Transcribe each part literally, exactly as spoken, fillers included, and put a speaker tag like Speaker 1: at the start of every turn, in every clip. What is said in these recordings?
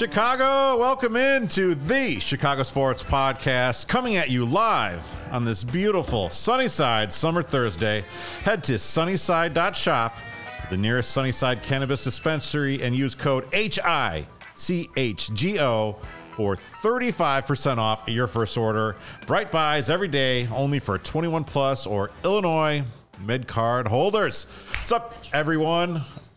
Speaker 1: Chicago, welcome into the Chicago Sports Podcast, coming at you live on this beautiful Sunnyside summer Thursday. Head to sunnyside dot shop, the nearest Sunnyside cannabis dispensary, and use code H I C H G O for thirty-five percent off your first order. Bright buys every day, only for twenty-one plus or Illinois mid-card holders. What's up, everyone?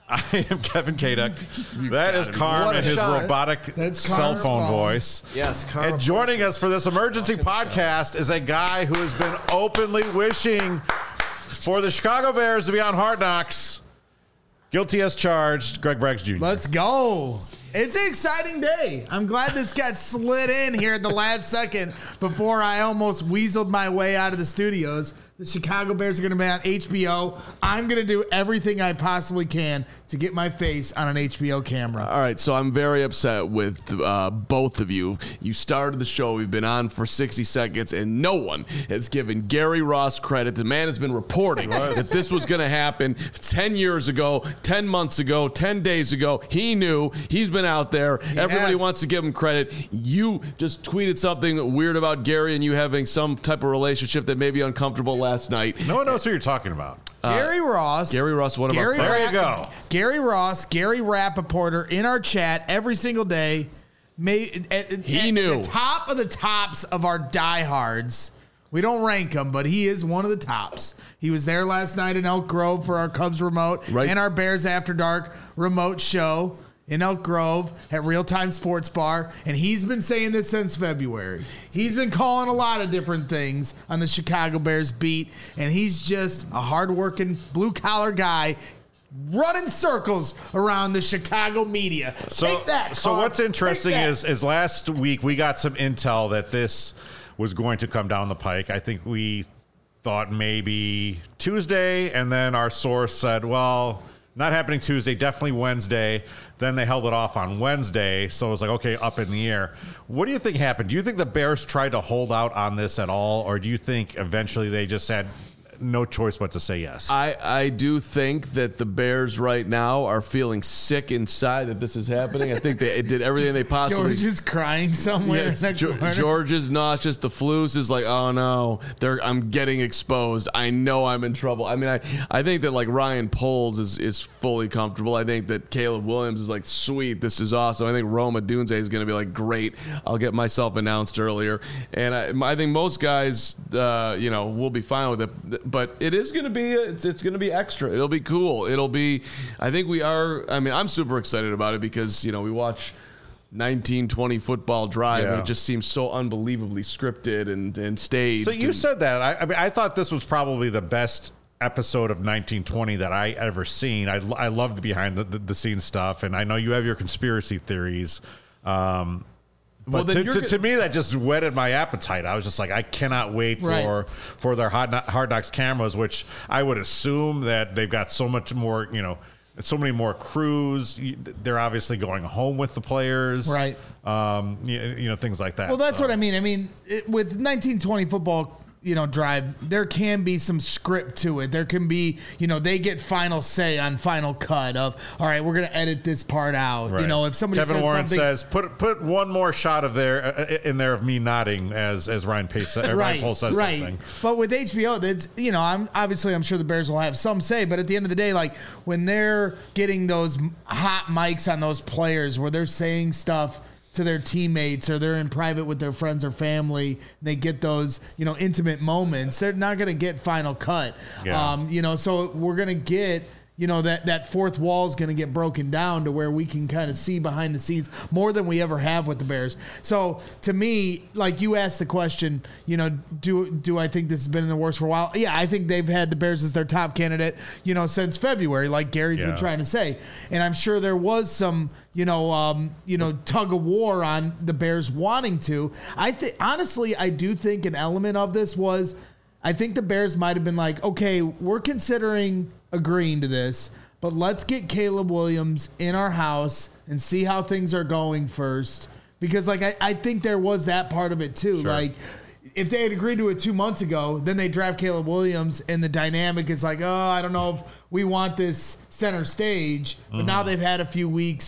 Speaker 1: I am Kevin Kaduk. That is Carm and his
Speaker 2: shot.
Speaker 1: robotic
Speaker 2: That's
Speaker 1: cell phone
Speaker 2: phone.
Speaker 1: voice.
Speaker 2: Yes, Carm.
Speaker 1: And joining us for this emergency podcast is a guy who has been openly wishing for the Chicago Bears to be on Hard Knocks. Guilty as charged, Greg Braggs Junior
Speaker 3: Let's go. It's an exciting day. I'm glad this got slid in here at the last second before I almost weaseled my way out of the studios. The Chicago Bears are going to be on H B O. I'm going to do everything I possibly can to get my face on an H B O camera.
Speaker 2: All right, so I'm very upset with uh, both of you. You started the show. We've been on for sixty seconds, and no one has given Gary Ross credit. The man has been reporting that this was going to happen ten years ago, ten months ago, ten days ago. He knew. He's been out there.
Speaker 3: He
Speaker 2: Everybody
Speaker 3: has.
Speaker 2: wants to give him credit. You just tweeted something weird about Gary and you having some type of relationship that may be uncomfortable last night.
Speaker 1: No one knows who you're talking about.
Speaker 3: Gary Ross.
Speaker 2: Gary Ross, one of
Speaker 3: Gary
Speaker 2: our
Speaker 1: There
Speaker 2: friends.
Speaker 1: you go.
Speaker 3: Gary Ross, Gary Rappaporter in our chat every single day. Made, at,
Speaker 2: He
Speaker 3: at
Speaker 2: knew.
Speaker 3: the top of the tops of our diehards. We don't rank him, but he is one of the tops. He was there last night in Elk Grove for our Cubs remote
Speaker 2: Right.
Speaker 3: and our Bears After Dark remote show in Elk Grove at Real Time Sports Bar. And he's been saying this since February. He's been calling a lot of different things on the Chicago Bears beat. And he's just a hardworking blue-collar guy running circles around the Chicago media.
Speaker 1: So,
Speaker 3: Take that,
Speaker 1: so
Speaker 3: Carl.
Speaker 1: what's interesting
Speaker 3: Take that.
Speaker 1: is, is last week we got some intel that this was going to come down the pike. I think we thought maybe Tuesday, and then our source said, well, not happening Tuesday, definitely Wednesday. Then they held it off on Wednesday, so it was like, okay, up in the air. What do you think happened? Do you think the Bears tried to hold out on this at all, or do you think eventually they just had no choice but to say yes?
Speaker 2: I, I do think that the Bears right now are feeling sick inside that this is happening. I think they did everything they possibly
Speaker 3: George is crying somewhere.
Speaker 2: Yes,
Speaker 3: in the
Speaker 2: Ge-
Speaker 3: corner.
Speaker 2: George is nauseous. The Flus is like, oh no, they're, I'm getting exposed. I know I'm in trouble. I mean, I, I think that like Ryan Poles is, is fully comfortable. I think that Caleb Williams is like, sweet, this is awesome. I think Roma Dunze is going to be like, great, I'll get myself announced earlier. And I, I think most guys, uh, you know, will be fine with it. But it is going to be, it's, it's going to be extra. It'll be cool. It'll be, I think we are, I mean, I'm super excited about it because, you know, we watch nineteen twenty football drive,
Speaker 1: Yeah.
Speaker 2: and it just seems so unbelievably scripted and, and staged.
Speaker 1: So you
Speaker 2: and,
Speaker 1: said that. I, I mean, I thought this was probably the best episode of nineteen twenty that I ever seen. I, I love the behind the, the, the scenes stuff, and I know you have your conspiracy theories. Um,
Speaker 2: Well,
Speaker 1: but
Speaker 2: then
Speaker 1: to,
Speaker 2: you're
Speaker 1: to,
Speaker 2: go-
Speaker 1: to me, that just whetted my appetite. I was just like, I cannot wait for
Speaker 3: Right.
Speaker 1: for their hard, Kno- hard knocks cameras, which I would assume that they've got so much more, you know, so many more crews. You- They're obviously going home with the players,
Speaker 3: Right.
Speaker 1: Um, you, you know, things like that.
Speaker 3: Well, that's
Speaker 1: So-
Speaker 3: what I mean. I mean, it, with nineteen twenty football, you know, drive, there can be some script to it. There can be, you know, they get final say on final cut of, all right, we're going to edit this part out.
Speaker 1: Right.
Speaker 3: You know, if somebody
Speaker 1: Kevin
Speaker 3: says
Speaker 1: Warren
Speaker 3: something,
Speaker 1: says, put put one more shot of there uh, in there of me nodding as as Ryan Pace, uh, Ryan
Speaker 3: right,
Speaker 1: Pohl says
Speaker 3: right.
Speaker 1: something.
Speaker 3: But with H B O, that's, you know, I'm obviously I'm sure the Bears will have some say, but at the end of the day, like when they're getting those hot mics on those players where they're saying stuff to their teammates or they're in private with their friends or family, and they get those, you know, intimate moments, they're not going to get final cut.
Speaker 1: Yeah.
Speaker 3: Um, you know, so we're going to get, you know, that, that fourth wall is going to get broken down to where we can kind of see behind the scenes more than we ever have with the Bears. So to me, like you asked the question, you know, do do I think this has been in the works for a while? Yeah, I think they've had the Bears as their top candidate, you know, since February, like Gary's
Speaker 1: Yeah.
Speaker 3: been trying to say. And I'm sure there was some, you know, um, you know, tug of war on the Bears wanting to. I think honestly, I do think an element of this was, I think the Bears might have been like, okay, we're considering agreeing to this, but let's get Caleb Williams in our house and see how things are going first. Because, like, I, I think there was that part of it, too.
Speaker 1: Sure.
Speaker 3: Like, if they had agreed to it two months ago, then they draft Caleb Williams, and the dynamic is like, oh, I don't know if we want this center stage. But now they've had a few weeks,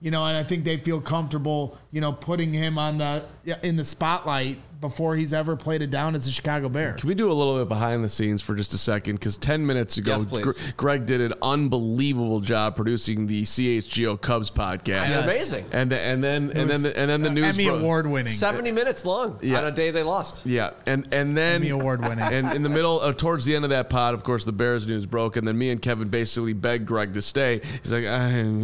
Speaker 3: You know, and I think they feel comfortable, you know, putting him on the in the spotlight before he's ever played it down as a Chicago Bear.
Speaker 2: Can we do a little bit behind the scenes for just a second? Because ten minutes ago,
Speaker 4: Yes, please.
Speaker 2: Gre- Greg did an unbelievable job producing the C H G O Cubs podcast.
Speaker 4: It's amazing.
Speaker 2: And the, and then and then the, and then the
Speaker 3: Uh,
Speaker 2: news
Speaker 3: Emmy
Speaker 2: bro-
Speaker 3: award winning.
Speaker 4: seventy minutes long
Speaker 2: Yeah.
Speaker 4: on a day they lost.
Speaker 2: Yeah, and and then
Speaker 3: Emmy award-winning.
Speaker 2: And in the middle, uh, towards the end of that pod, of course, the Bears news broke, and then me and Kevin basically begged Greg to stay. He's like,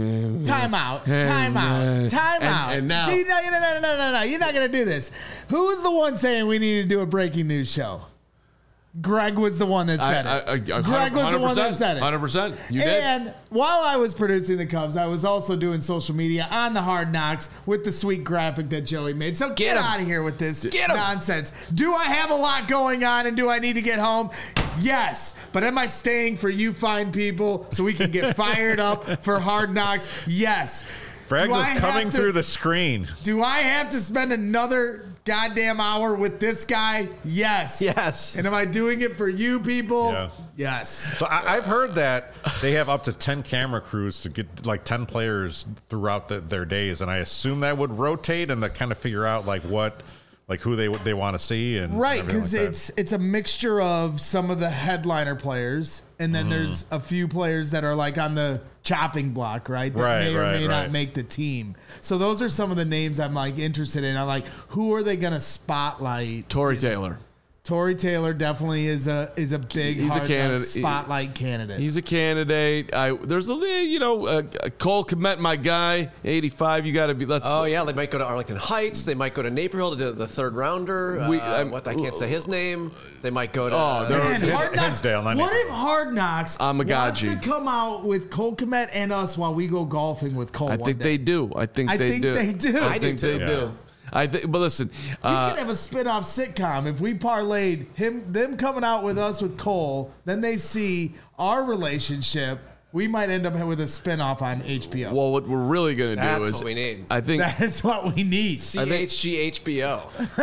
Speaker 3: Time out. Time out. Time
Speaker 2: And-
Speaker 3: out.
Speaker 2: and now-
Speaker 3: See, no, no, no, no, no, no. You're not going to do this. Who was the one saying we need to do a breaking news show? Greg was the one that said
Speaker 2: I-
Speaker 3: it.
Speaker 2: I- I-
Speaker 3: Greg was the one that said it.
Speaker 2: one hundred percent. You did.
Speaker 3: And while I was producing the Cubs, I was also doing social media on the Hard Knocks with the sweet graphic that Joey made. So get,
Speaker 4: Get 'em.
Speaker 3: out of here with this
Speaker 4: Get 'em.
Speaker 3: nonsense. Do I have a lot going on and do I need to get home? Yes. But am I staying for you fine people so we can get fired up for Hard Knocks? Yes.
Speaker 1: Braggs
Speaker 3: Do I
Speaker 1: is coming
Speaker 3: have to-
Speaker 1: through the screen.
Speaker 3: Do I have to spend another goddamn hour with this guy? Yes.
Speaker 4: Yes.
Speaker 3: And am I doing it for you people?
Speaker 1: Yeah.
Speaker 3: Yes.
Speaker 1: So I, I've heard that they have up to ten camera crews to get like ten players throughout the, their days, and I assume that would rotate and to kind of figure out like what, like who they they want to see and
Speaker 3: Right,
Speaker 1: everything
Speaker 3: because
Speaker 1: like that.
Speaker 3: it's it's a mixture of some of the headliner players, and then there's a few players that are like on the chopping block, right? That
Speaker 1: Right,
Speaker 3: may or
Speaker 1: right,
Speaker 3: may not
Speaker 1: right.
Speaker 3: make the team. So those are some of the names I'm like interested in. I'm like, who are they going to spotlight?
Speaker 2: Tory Taylor.
Speaker 3: Tory Taylor definitely is a is a big
Speaker 2: He's a
Speaker 3: hard
Speaker 2: candidate.
Speaker 3: spotlight candidate.
Speaker 2: He's a candidate. I there's a you know uh, Cole Kmet, my guy, eighty-five. You got to be. Let's.
Speaker 4: Oh yeah, they might go to Arlington Heights. They might go to Naperville to do the third rounder.
Speaker 2: We-
Speaker 4: uh,
Speaker 2: I'm-
Speaker 4: what I can't say his name. They might go to.
Speaker 2: Oh, they're-
Speaker 3: Man,
Speaker 1: Hins-
Speaker 3: Hard Knocks.
Speaker 1: Hinsdale, not
Speaker 3: What
Speaker 1: Naperville.
Speaker 3: if Hard Knocks
Speaker 2: Amagaji.
Speaker 3: wants to come out with Cole Kmet and us while we go golfing with Cole?
Speaker 2: I
Speaker 3: one
Speaker 2: think
Speaker 3: day?
Speaker 2: they do. I think
Speaker 3: I
Speaker 2: they
Speaker 3: think
Speaker 2: do.
Speaker 3: they do.
Speaker 2: I,
Speaker 3: I
Speaker 2: think
Speaker 4: do
Speaker 2: they
Speaker 4: too.
Speaker 2: do.
Speaker 1: Yeah.
Speaker 2: I think. But listen.
Speaker 3: We
Speaker 2: Uh,
Speaker 3: could have a spin-off sitcom if we parlayed him them coming out with us with Cole, then they see our relationship. We might end up with a spin-off on H B O.
Speaker 2: well, what we're really gonna do
Speaker 4: That's
Speaker 2: is
Speaker 4: what we need.
Speaker 2: I think.
Speaker 3: That is what we need.
Speaker 4: C H G H B O.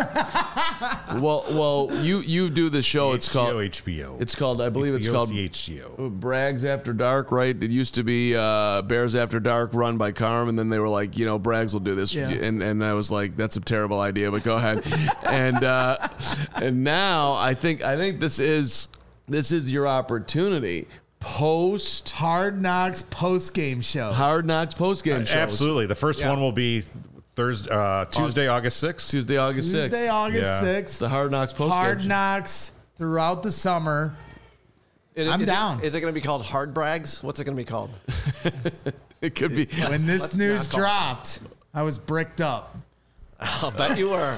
Speaker 2: well, well, you you do the show. It's
Speaker 1: H B O,
Speaker 2: called.
Speaker 1: H B O.
Speaker 2: It's called. I believe it's called.
Speaker 1: H B O.
Speaker 2: Brags After Dark, right? It used to be uh, Bears After Dark, run by Carm, and then they were like, you know, Brags will do this,
Speaker 3: Yeah.
Speaker 2: and and I was like, that's a terrible idea, but go ahead. and uh, and now I think I think this is this is your opportunity post
Speaker 3: Hard Knocks post-game show.
Speaker 2: Hard Knocks post game shows.
Speaker 1: Absolutely. The first
Speaker 4: Yeah.
Speaker 1: one will be Thursday, uh, Tuesday, August sixth.
Speaker 2: Tuesday, August sixth.
Speaker 3: Tuesday, August
Speaker 1: Yeah.
Speaker 3: sixth.
Speaker 2: The Hard Knocks post
Speaker 3: Hard
Speaker 2: game.
Speaker 3: Knocks throughout the summer.
Speaker 4: Is-
Speaker 3: I'm
Speaker 4: is it-
Speaker 3: down.
Speaker 4: Is it going to be called Hard Brags? What's it going to be called?
Speaker 2: It could be.
Speaker 3: When this
Speaker 4: let's
Speaker 3: news
Speaker 4: not call it.
Speaker 3: dropped, I was bricked up.
Speaker 4: I'll bet you were.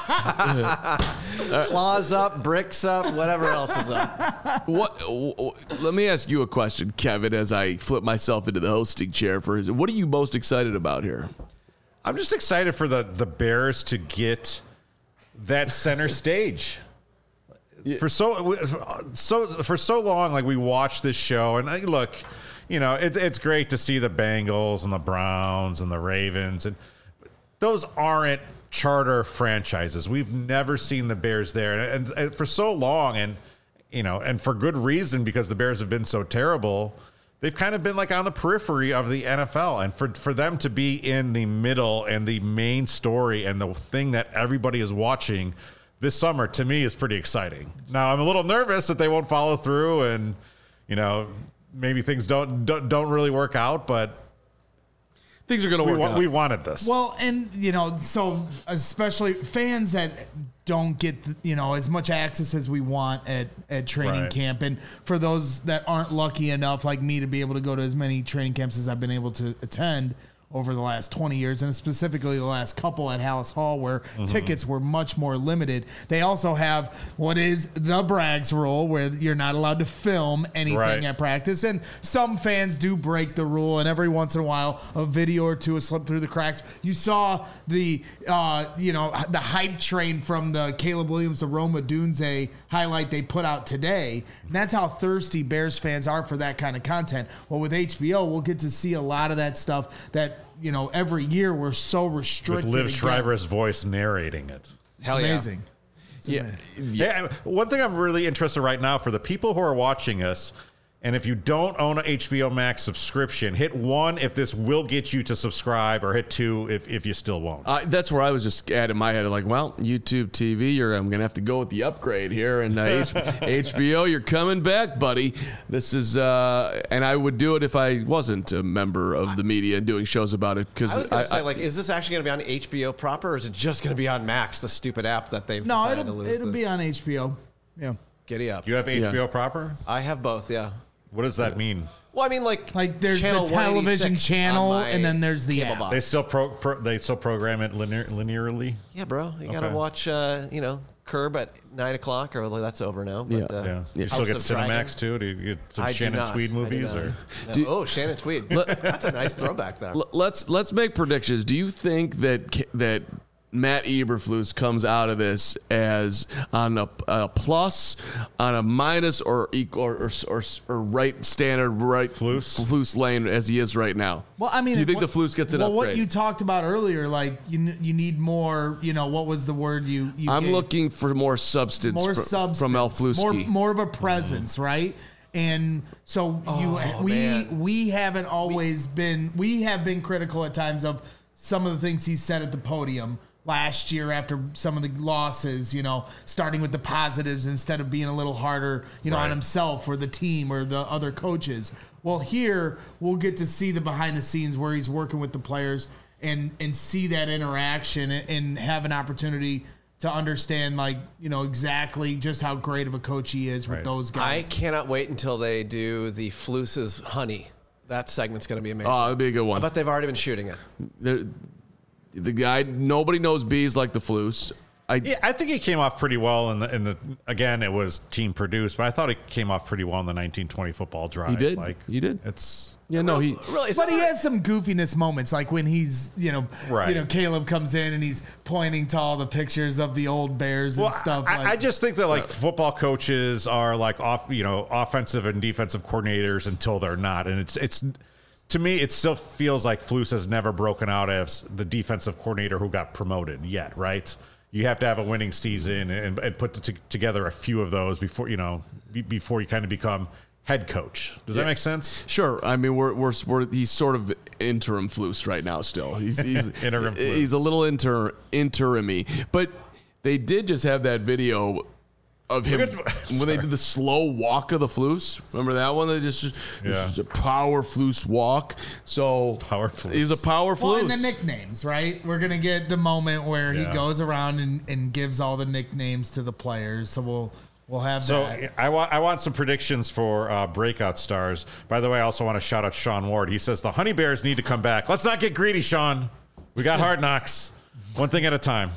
Speaker 4: Claws up, bricks up, whatever else is up.
Speaker 2: What? w- w- Let me ask you a question, Kevin. As I flip myself into the hosting chair for his, what are you most excited about here?
Speaker 1: I'm just excited for the, the Bears to get that center stage. For so so for so long, like we watched this show, and I, look, you know, it, it's great to see the Bengals and the Browns and the Ravens, and those aren't charter franchises. We've never seen the Bears there, and, and for so long, and you know, and for good reason, because the Bears have been so terrible. They've kind of been like on the periphery of the N F L, and for for them to be in the middle and the main story and the thing that everybody is watching this summer, to me, is pretty exciting. Now, I'm a little nervous that they won't follow through, and you know, maybe things don't don't, don't really work out, but
Speaker 2: Things are going to
Speaker 1: we
Speaker 2: work
Speaker 1: wa-
Speaker 2: out.
Speaker 1: we wanted this.
Speaker 3: Well, and you know, so especially fans that don't get you know as much access as we want at at training
Speaker 1: Right.
Speaker 3: camp, and for those that aren't lucky enough, like me, to be able to go to as many training camps as I've been able to attend over the last twenty years, and specifically the last couple at Hallis Hall, where tickets were much more limited. They also have what is the Braggs rule, where you're not allowed to film anything
Speaker 1: Right.
Speaker 3: at practice, and some fans do break the rule, and every once in a while a video or two will slip through the cracks. You saw the uh, you know the hype train from the Caleb Williams to Roma Dunze highlight they put out today, and that's how thirsty Bears fans are for that kind of content. Well, with H B O, we'll get to see a lot of that stuff that you know every year we're so
Speaker 1: with
Speaker 3: restricted
Speaker 1: Liv
Speaker 3: against.
Speaker 1: Schreiber's voice narrating it.
Speaker 4: Hell yeah.
Speaker 3: Amazing.
Speaker 2: yeah.
Speaker 1: Yeah, one thing I'm really interested right now for the people who are watching us, And if you don't own an H B O Max subscription, hit one if this will get you to subscribe, or hit two if, if you still won't.
Speaker 2: Uh, that's where I was just at in my head. Like, well, YouTube T V, you're, I'm going to have to go with the upgrade here. And uh, H- H B O, you're coming back, buddy. This is, uh, and I would do it if I wasn't a member of the media and doing shows about it. Because
Speaker 4: I was going
Speaker 2: I,
Speaker 4: to say,
Speaker 2: I,
Speaker 4: like, is this actually going to be on H B O proper, or is it just going to be on Max, the stupid app that they've
Speaker 3: No,
Speaker 4: decided to
Speaker 3: it'll,
Speaker 4: lose?
Speaker 3: it'll
Speaker 4: the,
Speaker 3: be on H B O. Yeah.
Speaker 4: Giddy up.
Speaker 1: You have H B O
Speaker 2: Yeah.
Speaker 1: proper?
Speaker 4: I have both, yeah.
Speaker 1: What does that mean?
Speaker 4: Well, I mean, like,
Speaker 3: Like there's
Speaker 4: channel
Speaker 3: the television
Speaker 4: one eighty-six
Speaker 3: channel,
Speaker 4: on my
Speaker 3: and then there's the
Speaker 4: cable
Speaker 3: app.
Speaker 4: box.
Speaker 1: They still pro, pro they still program it linear, linearly.
Speaker 4: Yeah, bro. You got to
Speaker 1: Okay.
Speaker 4: watch, uh, you know, Curb at nine o'clock, or well, that's over now. But,
Speaker 2: Yeah.
Speaker 4: uh,
Speaker 1: Yeah, you
Speaker 2: Yeah.
Speaker 1: still
Speaker 4: House
Speaker 1: get
Speaker 4: of
Speaker 1: Cinemax
Speaker 4: Dragon.
Speaker 1: too. Do you get some
Speaker 4: I do
Speaker 1: Shannon
Speaker 4: not.
Speaker 1: Tweed
Speaker 4: I do
Speaker 1: movies?
Speaker 4: not.
Speaker 1: Or
Speaker 4: No.
Speaker 2: Do-
Speaker 4: oh, Shannon Tweed. That's a nice throwback there.
Speaker 2: L- let's let's make predictions. Do you think that K- that Matt Eberflus comes out of this as on a, a plus, on a minus, or equal, or, or, or, or right standard, right
Speaker 1: Flus?
Speaker 2: Flus lane as he is right now?
Speaker 3: Well, I mean,
Speaker 2: do you think
Speaker 3: what-
Speaker 2: the Flus gets an
Speaker 3: well,
Speaker 2: upgrade?
Speaker 3: what you talked about earlier, like you n- you need more. You know, what was the word you? you
Speaker 2: I'm
Speaker 3: gave?
Speaker 2: looking for more substance,
Speaker 3: more
Speaker 2: fr-
Speaker 3: substance
Speaker 2: from El
Speaker 3: more
Speaker 2: Flusky.
Speaker 3: more of a presence, right? And so you
Speaker 4: Oh,
Speaker 3: we
Speaker 4: man.
Speaker 3: we haven't always been we have been critical at times of some of the things he said at the podium last year after some of the losses, you know, starting with the positives instead of being a little harder, you know,
Speaker 1: Right.
Speaker 3: on himself or the team or the other coaches. Well, here we'll get to see the behind the scenes where he's working with the players and and see that interaction and, and have an opportunity to understand, like, you know, exactly just how great of a coach he is with
Speaker 1: Right.
Speaker 3: those
Speaker 4: I
Speaker 3: guys.
Speaker 4: cannot wait until they do the Flus's Honey. That segment's going to be amazing.
Speaker 2: Oh, that'd be a good one.
Speaker 4: But they've already been shooting it.
Speaker 2: There- the guy, nobody knows bees like the Flus. I,
Speaker 1: yeah, I think he came off pretty well in the in the again it was team produced, but I thought he came off pretty well in the nineteen twenty football drive.
Speaker 2: He did.
Speaker 1: Like
Speaker 2: He did.
Speaker 1: It's
Speaker 2: yeah, no, he.
Speaker 4: Really? is
Speaker 3: But
Speaker 4: that
Speaker 3: he
Speaker 4: right?
Speaker 3: has some goofiness moments, like when he's, you know,
Speaker 1: Right.
Speaker 3: you know, Caleb comes in and he's pointing to all the pictures of the old Bears and
Speaker 1: well,
Speaker 3: stuff.
Speaker 1: I,
Speaker 3: like,
Speaker 1: I just think that like football coaches are like off, you know, offensive and defensive coordinators until they're not, and it's it's. To me, it still feels like Flus has never broken out as the defensive coordinator who got promoted yet, right? You have to have a winning season and, and put t- together a few of those before, you know, be, before you kind of become head coach. Does that make sense?
Speaker 2: Sure. I mean, we're, we're, we're he's sort of interim Flus right now still. He's, he's
Speaker 1: Interim Flus.
Speaker 2: He's a little inter, interim-y. But they did just have that video of him
Speaker 1: at-
Speaker 2: when they did the slow walk of the Flus. Remember that one? They just,
Speaker 1: Yeah.
Speaker 2: this is a power Flus walk. So
Speaker 1: Power Flus.
Speaker 2: He's a power
Speaker 3: well,
Speaker 2: Flus.
Speaker 3: and the nicknames, right? We're gonna get the moment where
Speaker 1: Yeah.
Speaker 3: he goes around and, and gives all the nicknames to the players. So we'll we'll have
Speaker 1: So
Speaker 3: that.
Speaker 1: I want I want some predictions for uh, breakout stars. By the way, I also want to shout out Sean Ward. He says the Honey Bears need to come back. Let's not get greedy, Sean. We got Hard Knocks. One thing at a time.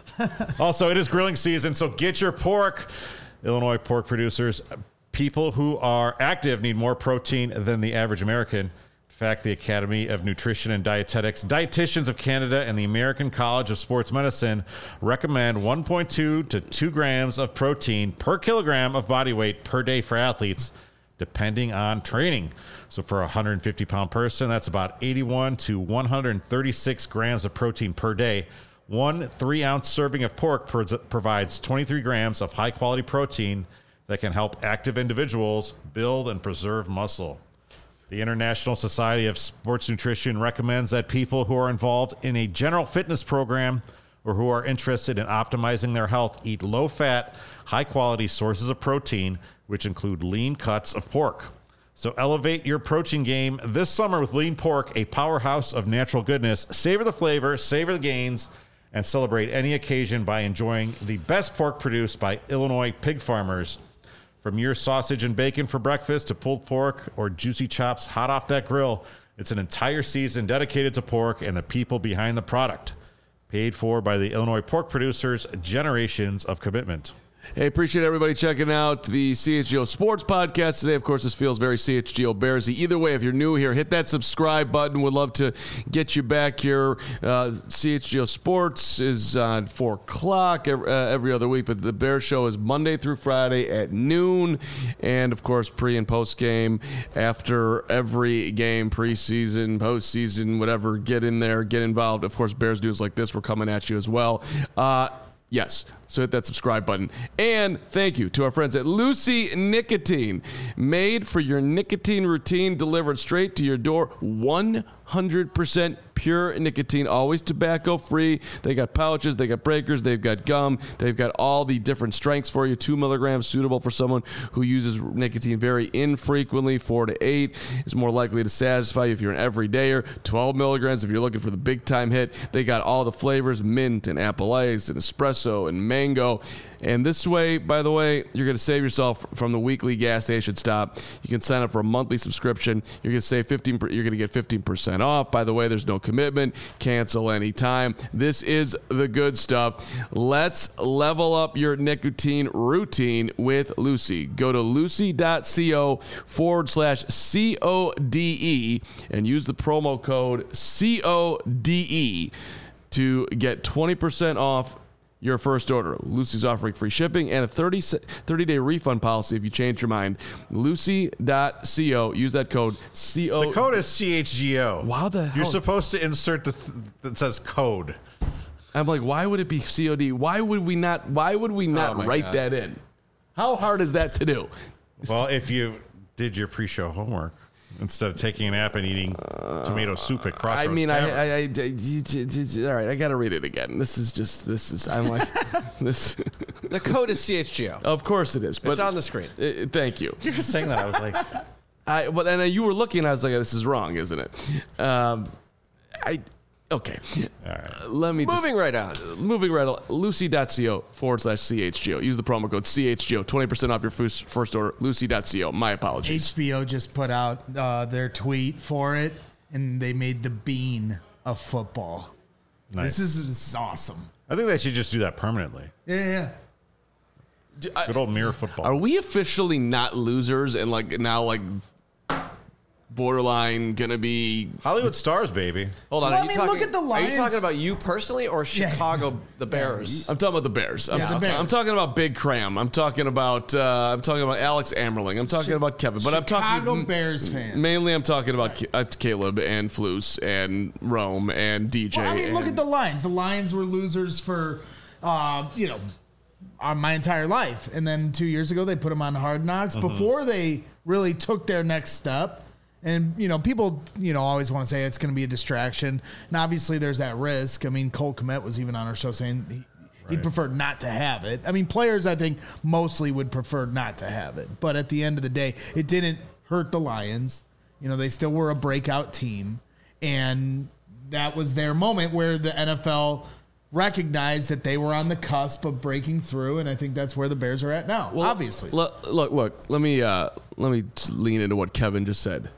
Speaker 1: Also, it is grilling season, so get your pork. Illinois pork producers, people who are active need more protein than the average American. In fact, the Academy of Nutrition and Dietetics, Dietitians of Canada, and the American College of Sports Medicine recommend one point two to two grams of protein per kilogram of body weight per day for athletes, depending on training. So for a one hundred fifty pound person, that's about eighty-one to one hundred thirty-six grams of protein per day. One three ounce serving of pork pro- provides twenty-three grams of high quality protein that can help active individuals build and preserve muscle. The International Society of Sports Nutrition recommends that people who are involved in a general fitness program or who are interested in optimizing their health eat low fat, high quality sources of protein, which include lean cuts of pork. So elevate your protein game this summer with Lean Pork, a powerhouse of natural goodness. Savor the flavor, savor the gains, and celebrate any occasion by enjoying the best pork produced by Illinois pig farmers. From your sausage and bacon for breakfast to pulled pork or juicy chops hot off that grill, it's an entire season dedicated to pork and the people behind the product. Paid for by the Illinois pork producers, generations of commitment.
Speaker 2: Hey, appreciate everybody checking out the C H G O Sports Podcast today. Of course, this feels very C H G O Bearsy. Either way, if you're new here, hit that subscribe button. We'd love to get you back here. Uh, C H G O Sports is on four o'clock every, uh, every other week, but the Bear Show is Monday through Friday at noon. And, of course, pre- and post-game after every game, preseason, postseason, whatever. Get in there, get involved. Of course, Bears news like this, we're coming at you as well. Uh, Yes. So hit that subscribe button. And thank you to our friends at Lucy Nicotine. Made for your nicotine routine, delivered straight to your door. one hundred percent pure nicotine, always tobacco free. They got pouches, they got breakers, they've got gum, they've got all the different strengths for you. Two milligrams, suitable for someone who uses nicotine very infrequently. Four to eight is more likely to satisfy you if you're an everydayer. twelve milligrams if you're looking for the big time hit. They got all the flavors, mint and apple ice and espresso and mango. And this way, by the way, you're going to save yourself from the weekly gas station stop. You can sign up for a monthly subscription. You're going to save fifteen. You're going to get fifteen percent off. By the way, there's no commitment. Cancel anytime. This is the good stuff. Let's level up your nicotine routine with Lucy. Go to lucy.co forward slash C O D E and use the promo code C O D E to get twenty percent off your first order. Lucy's offering free shipping and a thirty, thirty-day refund policy if you change your mind. Lucy.co. Use that code C O.
Speaker 1: The code is C H G O.
Speaker 2: Wow, the hell?
Speaker 1: You're supposed to insert the th- that says code.
Speaker 2: I'm like, why would it be C O D? Why would we not? Why would we not
Speaker 4: Oh my
Speaker 2: write
Speaker 4: God.
Speaker 2: that in? How hard is that to do?
Speaker 1: Well, if you did your pre-show homework instead of taking a nap and eating tomato soup at Crossroads
Speaker 2: I mean, I,
Speaker 1: Tavern.
Speaker 2: I, I, I, all right, I got to read it again. This is just, this is, I'm like, this.
Speaker 4: The code is C H G O.
Speaker 2: Of course it is, but
Speaker 4: It's on the screen.
Speaker 2: Uh, thank you.
Speaker 1: You're just saying that. I was like,
Speaker 2: I, but and you were looking, I was like, this is wrong, isn't it? Um, I, okay.
Speaker 1: all right.
Speaker 2: Let me just,
Speaker 4: Moving right on.
Speaker 2: moving right along. Lucy.co forward slash C H G O. Use the promo code C H G O. twenty percent off your first, first order. Lucy.co. My apologies.
Speaker 3: H B O just put out uh, their tweet for it, and they made the bean of football.
Speaker 1: Nice.
Speaker 3: This is, this is awesome.
Speaker 1: I think they should just do that permanently.
Speaker 3: Yeah, yeah.
Speaker 2: Do- I-
Speaker 1: Good old mirror football.
Speaker 2: Are we officially not losers and like now like borderline gonna be?
Speaker 1: Hollywood stars, baby.
Speaker 4: Hold on.
Speaker 3: Well,
Speaker 4: are
Speaker 3: I
Speaker 4: you
Speaker 3: mean,
Speaker 4: talking,
Speaker 3: look at the
Speaker 4: Are
Speaker 3: Lions.
Speaker 4: you talking about you personally or
Speaker 3: Yeah.
Speaker 4: Chicago, the Bears?
Speaker 2: I'm talking about the Bears. I'm,
Speaker 3: Yeah, the
Speaker 2: ta-
Speaker 3: Bears.
Speaker 2: I'm talking about Big Cram. I'm talking about uh, I'm talking about Alex Ammerling. I'm talking about Kevin. But I'm
Speaker 3: Chicago
Speaker 2: talking
Speaker 3: Bears fans.
Speaker 2: mainly. I'm talking about Ca- uh, Caleb and Flus and Rome and D J.
Speaker 3: Well, I mean, look
Speaker 2: and-
Speaker 3: at the Lions. The Lions were losers for, uh, you know, uh, my entire life. And then two years ago, they put them on Hard Knocks before they really took their next step. And, you know, people, you know, always want to say it's going to be a distraction. And obviously there's that risk. I mean, Cole Kmet was even on our show saying he, he'd
Speaker 1: Right.
Speaker 3: prefer not to have it. I mean, players, I think, mostly would prefer not to have it. But at the end of the day, it didn't hurt the Lions. You know, they still were a breakout team. And that was their moment where the N F L recognized that they were on the cusp of breaking through. And I think that's where the Bears are at now,
Speaker 2: Well,
Speaker 3: obviously.
Speaker 2: Look, look, look. Let me uh, let me just lean into what Kevin just said.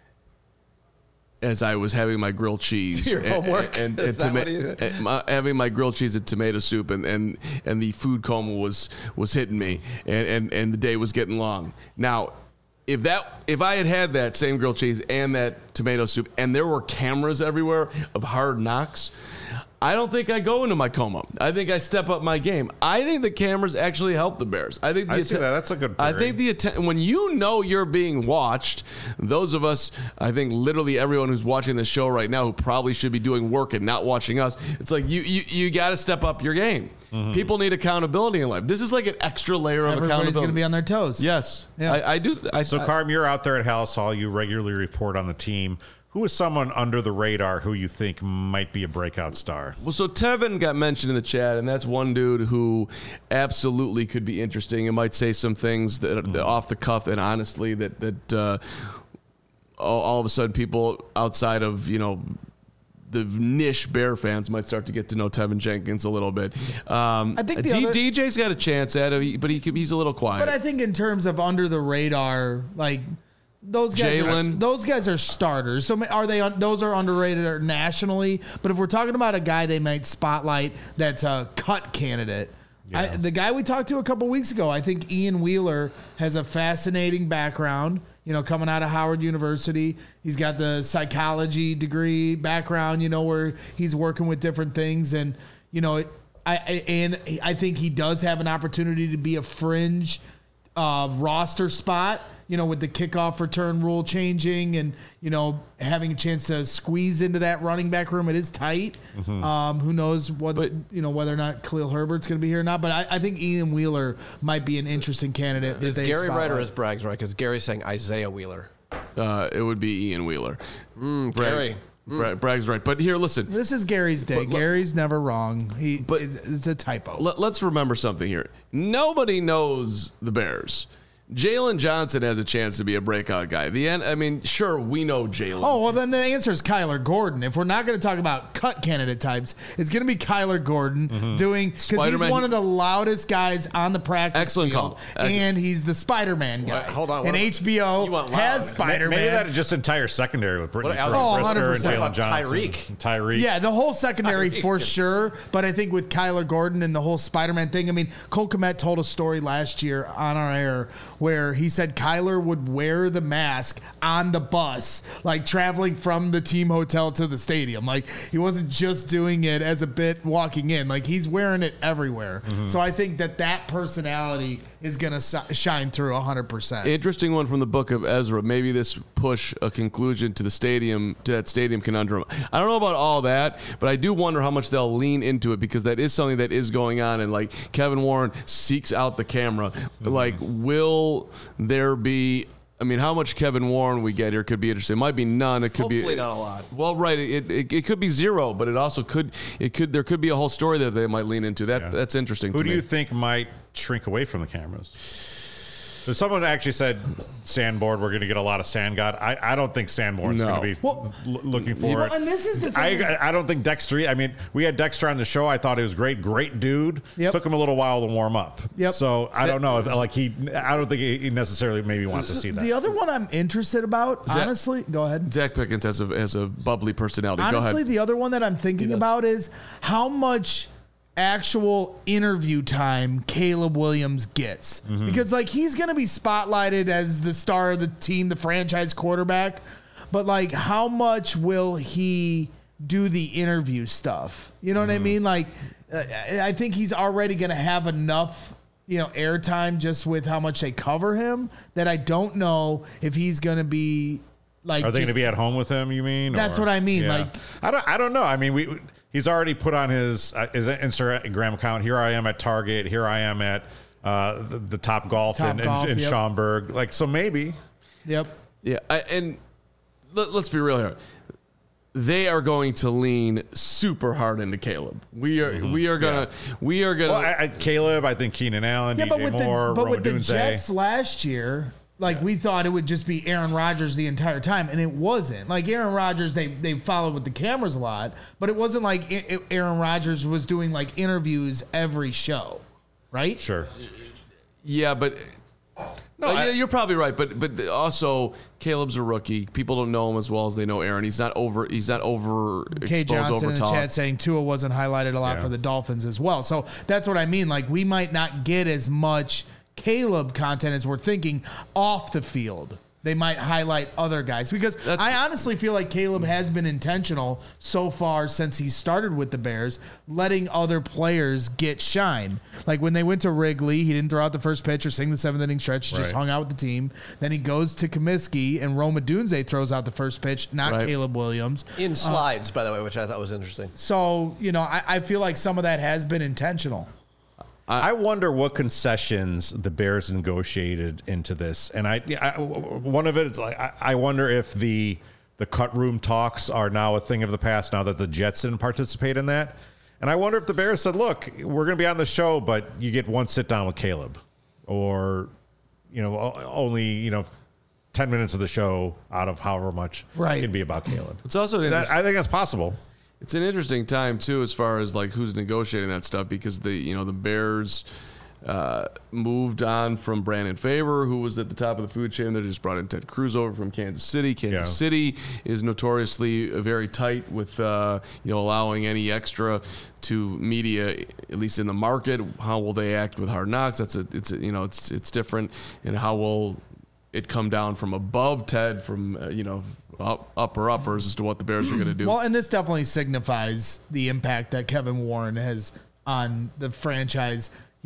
Speaker 2: As I was having my grilled cheese
Speaker 4: Your
Speaker 2: and,
Speaker 4: homework?
Speaker 2: and, and,
Speaker 4: Is that
Speaker 2: toma-
Speaker 4: what he-
Speaker 2: and my- having my grilled cheese and tomato soup, and, and, and the food coma was was hitting me, and, and, and the day was getting long. Now, if that if I had had that same grilled cheese and that tomato soup, and there were cameras everywhere of Hard Knocks, I don't think I go into my coma. I think I step up my game. I think the cameras actually help the Bears. I think the
Speaker 1: I see
Speaker 2: atten-
Speaker 1: that. That's a good
Speaker 2: I
Speaker 1: theory.
Speaker 2: think the atten- when you know you're being watched, those of us, I think literally everyone who's watching the show right now who probably should be doing work and not watching us, it's like you you, you got to step up your game.
Speaker 1: Mm-hmm.
Speaker 2: People need accountability in life. This is like an extra layer of
Speaker 3: Everybody's
Speaker 2: accountability.
Speaker 3: going to be on their toes.
Speaker 2: Yes,
Speaker 3: Yeah.
Speaker 2: I, I do. Th- I,
Speaker 1: So,
Speaker 2: I-
Speaker 1: Carm, you're out there at House Hall. You regularly report on the team. Who is someone under the radar who you think might be a breakout star?
Speaker 2: Well, so Tevin got mentioned in the chat, and that's one dude who absolutely could be interesting and might say some things that, that off the cuff and honestly that that uh, all, all of a sudden people outside of you know the niche Bear fans might start to get to know Tevin Jenkins a little bit. Um,
Speaker 3: I think the
Speaker 2: D-
Speaker 3: other-
Speaker 2: D J's got a chance at it, but he could- he's a little quiet.
Speaker 3: But I think in terms of under the radar, like those guys, are,
Speaker 2: Jalen.
Speaker 3: those guys are starters. So are they? un- Those are underrated or nationally. But if we're talking about a guy they might spotlight that's a cut candidate, I,
Speaker 1: Yeah.
Speaker 3: the guy we talked to a couple weeks ago, I think Ian Wheeler has a fascinating background. You know, coming out of Howard University, he's got the psychology degree background. You know, where he's working with different things, and you know, I, I and I think he does have an opportunity to be a fringe uh, roster spot, you know, with the kickoff return rule changing and, you know, having a chance to squeeze into that running back room. It is tight. Mm-hmm. Um, who knows what, but, you know, whether or not Khalil Herbert's going to be here or not. But I, I think Ian Wheeler might be an interesting candidate.
Speaker 4: Is Gary right or is Braggs right? Because Gary's saying Isaiah Wheeler.
Speaker 2: Uh, it would be Ian Wheeler.
Speaker 4: Mm, Gary.
Speaker 2: Bra- mm. Bragg's right. But here, listen.
Speaker 3: This is Gary's day. But, Gary's never wrong. He, but it's, it's a typo.
Speaker 2: Let, let's remember something here. Nobody knows the Bears. Jalen Johnson has a chance to be a breakout guy. The end. I mean, sure, we know Jalen.
Speaker 3: Oh, well, then the answer is Kyler Gordon. If we're not going to talk about cut candidate types, it's going to be Kyler Gordon mm-hmm. doing because he's one of the loudest guys on the practice
Speaker 2: Excellent
Speaker 3: field,
Speaker 2: call.
Speaker 3: and he's the Spider-Man guy.
Speaker 4: What? Hold on,
Speaker 3: and H B O has Spider-Man.
Speaker 1: Maybe that just entire secondary with Brittany
Speaker 3: what, oh,
Speaker 1: Brisker and Jalen Johnson,
Speaker 4: Tyreek.
Speaker 1: Tyreek.
Speaker 3: Yeah, the whole secondary
Speaker 4: Tyreek.
Speaker 3: for sure. But I think with Kyler Gordon and the whole Spider-Man thing, I mean, Cole Kmet told a story last year on our air where he said Kyler would wear the mask on the bus, like traveling from the team hotel to the stadium. Like he wasn't just doing it as a bit walking in, like he's wearing it everywhere. Mm-hmm. So I think that that personality is going to shine through one hundred percent.
Speaker 2: Interesting one from the book of Ezra. Maybe this push a conclusion to the stadium, to that stadium conundrum. I don't know about all that, but I do wonder how much they'll lean into it because that is something that is going on. And like Kevin Warren seeks out the camera. Mm-hmm. Like, will there be, I mean, how much Kevin Warren we get here could be interesting. It might be none. It could
Speaker 4: Hopefully
Speaker 2: be
Speaker 4: Hopefully not a lot.
Speaker 2: Well, right. It, it it could be zero, but it also could it could there could be a whole story that they might lean into. That yeah. That's interesting.
Speaker 1: Who
Speaker 2: to
Speaker 1: do
Speaker 2: me.
Speaker 1: you think might shrink away from the cameras? So someone actually said Sandborn, we're going to get a lot of Sand God. I, I don't think Sandborn's
Speaker 2: no.
Speaker 1: going to be
Speaker 3: well,
Speaker 1: l- looking for
Speaker 3: well,
Speaker 1: it.
Speaker 3: And this is the thing.
Speaker 1: I, I don't think Dexter, I mean, we had Dexter on the show. I thought he was great. Great dude.
Speaker 3: Yep.
Speaker 1: Took him a little while to warm up.
Speaker 3: Yep.
Speaker 1: So I don't know if like he, I don't think he necessarily maybe wants to see that.
Speaker 3: The other one I'm interested about,
Speaker 2: Zach,
Speaker 3: honestly, go ahead.
Speaker 2: Zach Pickens has a, has a bubbly personality.
Speaker 3: Honestly,
Speaker 2: go ahead.
Speaker 3: The other one that I'm thinking about is how much actual interview time Caleb Williams gets. Mm-hmm. Because like he's going to be spotlighted as the star of the team, the franchise quarterback, but like how much will he do the interview stuff? You know mm-hmm. what I mean? Like uh, I think he's already going to have enough, you know, airtime just with how much they cover him that I don't know if he's going to be like
Speaker 1: Are they going to
Speaker 3: just,
Speaker 1: be at home with him, you mean?
Speaker 3: That's
Speaker 1: or,
Speaker 3: what I mean.
Speaker 1: Yeah.
Speaker 3: Like
Speaker 1: I don't I don't know. I mean, we he's already put on his uh, his Instagram account. Here I am at Target. Here I am at uh, the, the Top Golf
Speaker 3: Top
Speaker 1: in,
Speaker 3: golf,
Speaker 1: in, in
Speaker 3: yep.
Speaker 1: Schaumburg. Like so, maybe.
Speaker 3: Yep.
Speaker 2: Yeah, I, and let, let's be real here. They are going to lean super hard into Caleb. We are mm-hmm. we are gonna yeah. we are gonna.
Speaker 1: Well, I, I, Caleb, I think Keenan Allen,
Speaker 3: yeah,
Speaker 1: D J
Speaker 3: but with
Speaker 1: Moore,
Speaker 3: the, but
Speaker 1: Roma
Speaker 3: with the
Speaker 1: Dunze.
Speaker 3: Jets last year. Like, we thought it would just be Aaron Rodgers the entire time, and it wasn't. Like, Aaron Rodgers, they they followed with the cameras a lot, but it wasn't like it, Aaron Rodgers was doing, like, interviews every show, right?
Speaker 1: Sure.
Speaker 2: Yeah, but... No, uh, I, you're probably right, but but also Caleb's a rookie. People don't know him as well as they know Aaron. He's not over. He's not over
Speaker 3: Kay
Speaker 2: exposed
Speaker 3: Johnson
Speaker 2: over
Speaker 3: in the
Speaker 2: top.
Speaker 3: chat saying Tua wasn't highlighted a lot
Speaker 1: yeah.
Speaker 3: for the Dolphins as well. So that's what I mean. Like, we might not get as much Caleb content as we're thinking off the field. They might highlight other guys because That's, I honestly feel like Caleb has been intentional so far since he started with the Bears, letting other players get shine. Like when they went to Wrigley, he didn't throw out the first pitch or sing the seventh inning stretch, right. just hung out with the team. Then he goes to Comiskey and Roma Dunze throws out the first pitch, not right. Caleb Williams.
Speaker 4: In slides, uh, by the way, which I thought was interesting.
Speaker 3: So, you know, I, I feel like some of that has been intentional.
Speaker 1: I wonder what concessions the Bears negotiated into this, and I, I one of it is like I, I wonder if the the cut room talks are now a thing of the past now that the Jets didn't participate in that, and I wonder if the Bears said, "Look, we're going to be on the show, but you get one sit down with Caleb, or you know, only you know." ten minutes of the show out of however much
Speaker 3: right.
Speaker 1: can be about Caleb.
Speaker 2: It's also
Speaker 1: that, I think that's possible.
Speaker 2: It's an interesting time too, as far as like who's negotiating that stuff, because the you know the Bears uh, moved on from Brandon Faber, who was at the top of the food chain. They just brought in Ted Cruz over from Kansas City. Kansas yeah. City is notoriously very tight with uh, you know allowing any extra to media, at least in the market. How will they act with Hard Knocks? That's a it's a, you know it's it's different, and how will it come down from above Ted from uh, you know. Up, upper uppers as to what the Bears are going to do.
Speaker 3: Well, and this definitely signifies the impact that Kevin Warren has on the franchise, you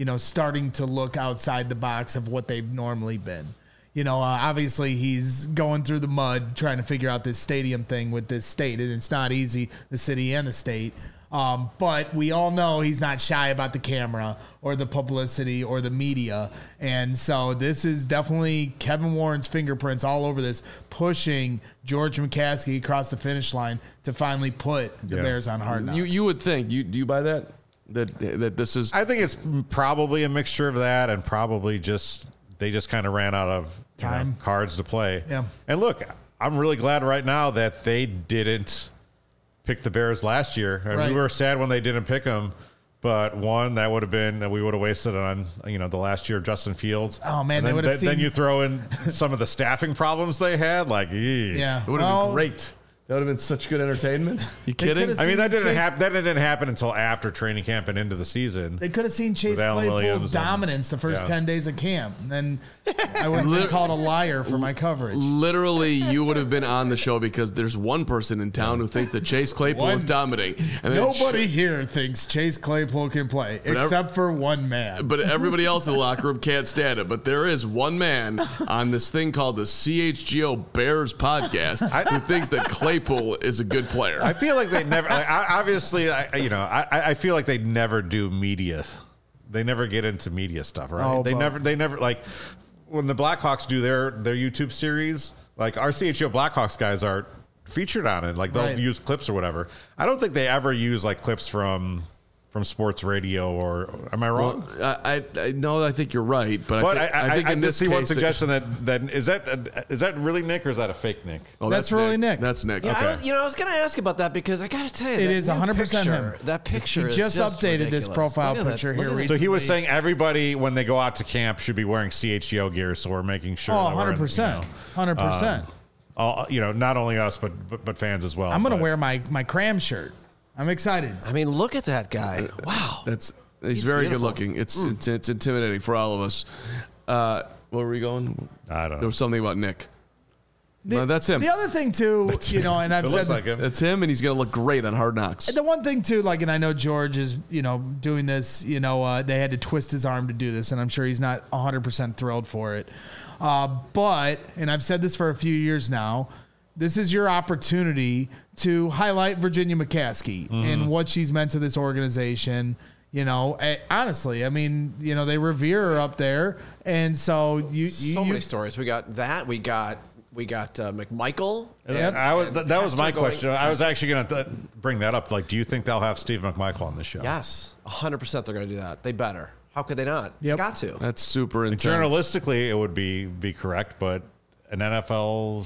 Speaker 3: you know, starting to look outside the box of what they've normally been. You know, uh, obviously he's going through the mud trying to figure out this stadium thing with this state, and it's not easy, the city and the state. Um, but we all know he's not shy about the camera or the publicity or the media. And so this is definitely Kevin Warren's fingerprints all over this, pushing George McCaskey across the finish line to finally put the
Speaker 1: Yeah.
Speaker 3: Bears on Hard Knocks.
Speaker 2: You you would think you do you buy that that that this is
Speaker 1: I think it's probably a mixture of that and probably just they just kind of ran out of you know,
Speaker 3: Time.
Speaker 1: cards to play.
Speaker 3: Yeah.
Speaker 1: And look, I'm really glad right now that they didn't pick the Bears last year. And
Speaker 3: Right.
Speaker 1: we were sad when they didn't pick them. But one, that would have been that we would have wasted on you know the last year of Justin Fields.
Speaker 3: Oh, man,
Speaker 1: And
Speaker 3: they
Speaker 1: then,
Speaker 3: would have
Speaker 1: then, then
Speaker 3: seen-
Speaker 1: you throw in some of the staffing problems they had, like ee.
Speaker 3: Yeah.
Speaker 2: it would have
Speaker 3: Well,
Speaker 2: been great. That would have been such good entertainment. You
Speaker 3: They
Speaker 2: kidding?
Speaker 3: could've
Speaker 1: I mean that didn't
Speaker 3: Chase-
Speaker 1: happen. That didn't happen until after training camp and into the season.
Speaker 3: They could have seen Chase
Speaker 1: With Alan Williams
Speaker 3: Claypool's
Speaker 1: and-
Speaker 3: dominance the first
Speaker 1: yeah.
Speaker 3: ten days of camp. And then I would have been called a liar for my coverage.
Speaker 2: Literally, you would have been on the show because there's one person in town who thinks that Chase Claypool
Speaker 3: One-
Speaker 2: is dominating. And then
Speaker 3: Nobody here thinks Chase Claypool can play,
Speaker 2: ev-
Speaker 3: except for one man.
Speaker 2: But everybody else in the locker room can't stand it. But there is one man on this thing called the C H G O Bears podcast who thinks that Claypool is a good player.
Speaker 1: I feel like they never. Like, I- obviously, I, you know, I, I feel like they never do media. They never get into media stuff, right?
Speaker 3: Oh,
Speaker 1: they
Speaker 3: but-
Speaker 1: never. They never like when the Blackhawks do their their YouTube series. Like our C H G O Blackhawks guys are featured on it. Like they'll
Speaker 3: Right.
Speaker 1: use clips or whatever. I don't think they ever use like clips from from sports radio or. Am I wrong?
Speaker 2: Well, I, I, I no, I think you're right, but,
Speaker 1: But
Speaker 2: I, think,
Speaker 1: I, I,
Speaker 2: I think
Speaker 1: I
Speaker 2: in
Speaker 1: did
Speaker 2: this
Speaker 1: see
Speaker 2: case,
Speaker 1: one
Speaker 2: that-
Speaker 1: suggestion that that is that is that really Nick or is that a fake Nick?
Speaker 2: Oh,
Speaker 3: That's really Nick.
Speaker 2: That's Nick.
Speaker 4: Yeah, I
Speaker 2: Okay.
Speaker 4: don't, you know, I was going to ask about that because I got to tell you,
Speaker 3: It
Speaker 4: that
Speaker 3: is
Speaker 4: new
Speaker 3: one hundred percent
Speaker 4: picture,
Speaker 3: him.
Speaker 4: That picture
Speaker 3: He
Speaker 4: is
Speaker 3: just updated this
Speaker 4: ridiculous.
Speaker 3: profile
Speaker 4: Look at that-
Speaker 3: picture
Speaker 4: look
Speaker 3: here
Speaker 4: at that.
Speaker 1: So he was
Speaker 3: Recently-
Speaker 1: saying everybody when they go out to camp should be wearing C H G O gear. So we're making sure.
Speaker 3: Oh,
Speaker 1: that we're in,
Speaker 3: one hundred percent.
Speaker 1: you know,
Speaker 3: one hundred percent.
Speaker 1: all, you know, not only us but but, but fans as well.
Speaker 3: I'm going to
Speaker 1: But-
Speaker 3: wear my, my cram shirt. I'm excited.
Speaker 4: I mean, look at that guy. Wow.
Speaker 2: That's he's,
Speaker 4: He's
Speaker 2: very
Speaker 4: beautiful.
Speaker 2: good looking. It's, it's it's intimidating for all of us. Uh, where were we going?
Speaker 1: I don't
Speaker 2: There
Speaker 1: know.
Speaker 2: was something about Nick.
Speaker 3: The,
Speaker 2: No, that's him.
Speaker 3: The other thing, too, you know, and I've
Speaker 1: It
Speaker 3: said
Speaker 1: looks like him.
Speaker 2: That's him, and he's gonna look great on Hard Knocks.
Speaker 3: the one thing too, like, and I know George is, you know, doing this, you know, uh, they had to twist his arm to do this, and I'm sure he's not one hundred percent thrilled for it. Uh, but, and I've said this for a few years now, this is your opportunity to highlight Virginia McCaskey and what she's meant to this organization. You know, eh, honestly, I mean, you know, they revere her up there, and so you, you
Speaker 4: so
Speaker 3: you,
Speaker 4: many stories. We got that. We got we got uh, McMichael.
Speaker 3: Yep.
Speaker 1: I was that, that was my
Speaker 4: Pastor going-
Speaker 1: question. I was actually going to bring that up. Like, do you think they'll have Steve McMichael on the show?
Speaker 4: Yes, one hundred percent they're going to do that. They better. How could they not?
Speaker 3: Yep.
Speaker 4: Got to.
Speaker 2: That's super intense.
Speaker 1: Journalistically, it would be be correct, but an N F L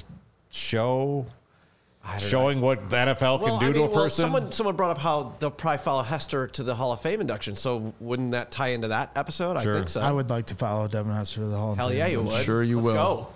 Speaker 1: show
Speaker 4: I don't
Speaker 1: showing what the N F L can
Speaker 4: Well,
Speaker 1: do
Speaker 4: I
Speaker 1: to
Speaker 4: mean,
Speaker 1: a
Speaker 4: well,
Speaker 1: person.
Speaker 4: someone someone brought up how they'll probably follow Hester to the Hall of Fame induction. So wouldn't that tie into that episode?
Speaker 1: Sure.
Speaker 4: I think so.
Speaker 3: I would like to follow Devin Hester to the Hall of
Speaker 4: Hell
Speaker 3: Fame.
Speaker 4: yeah, you would.
Speaker 2: sure you
Speaker 4: Let's
Speaker 2: will.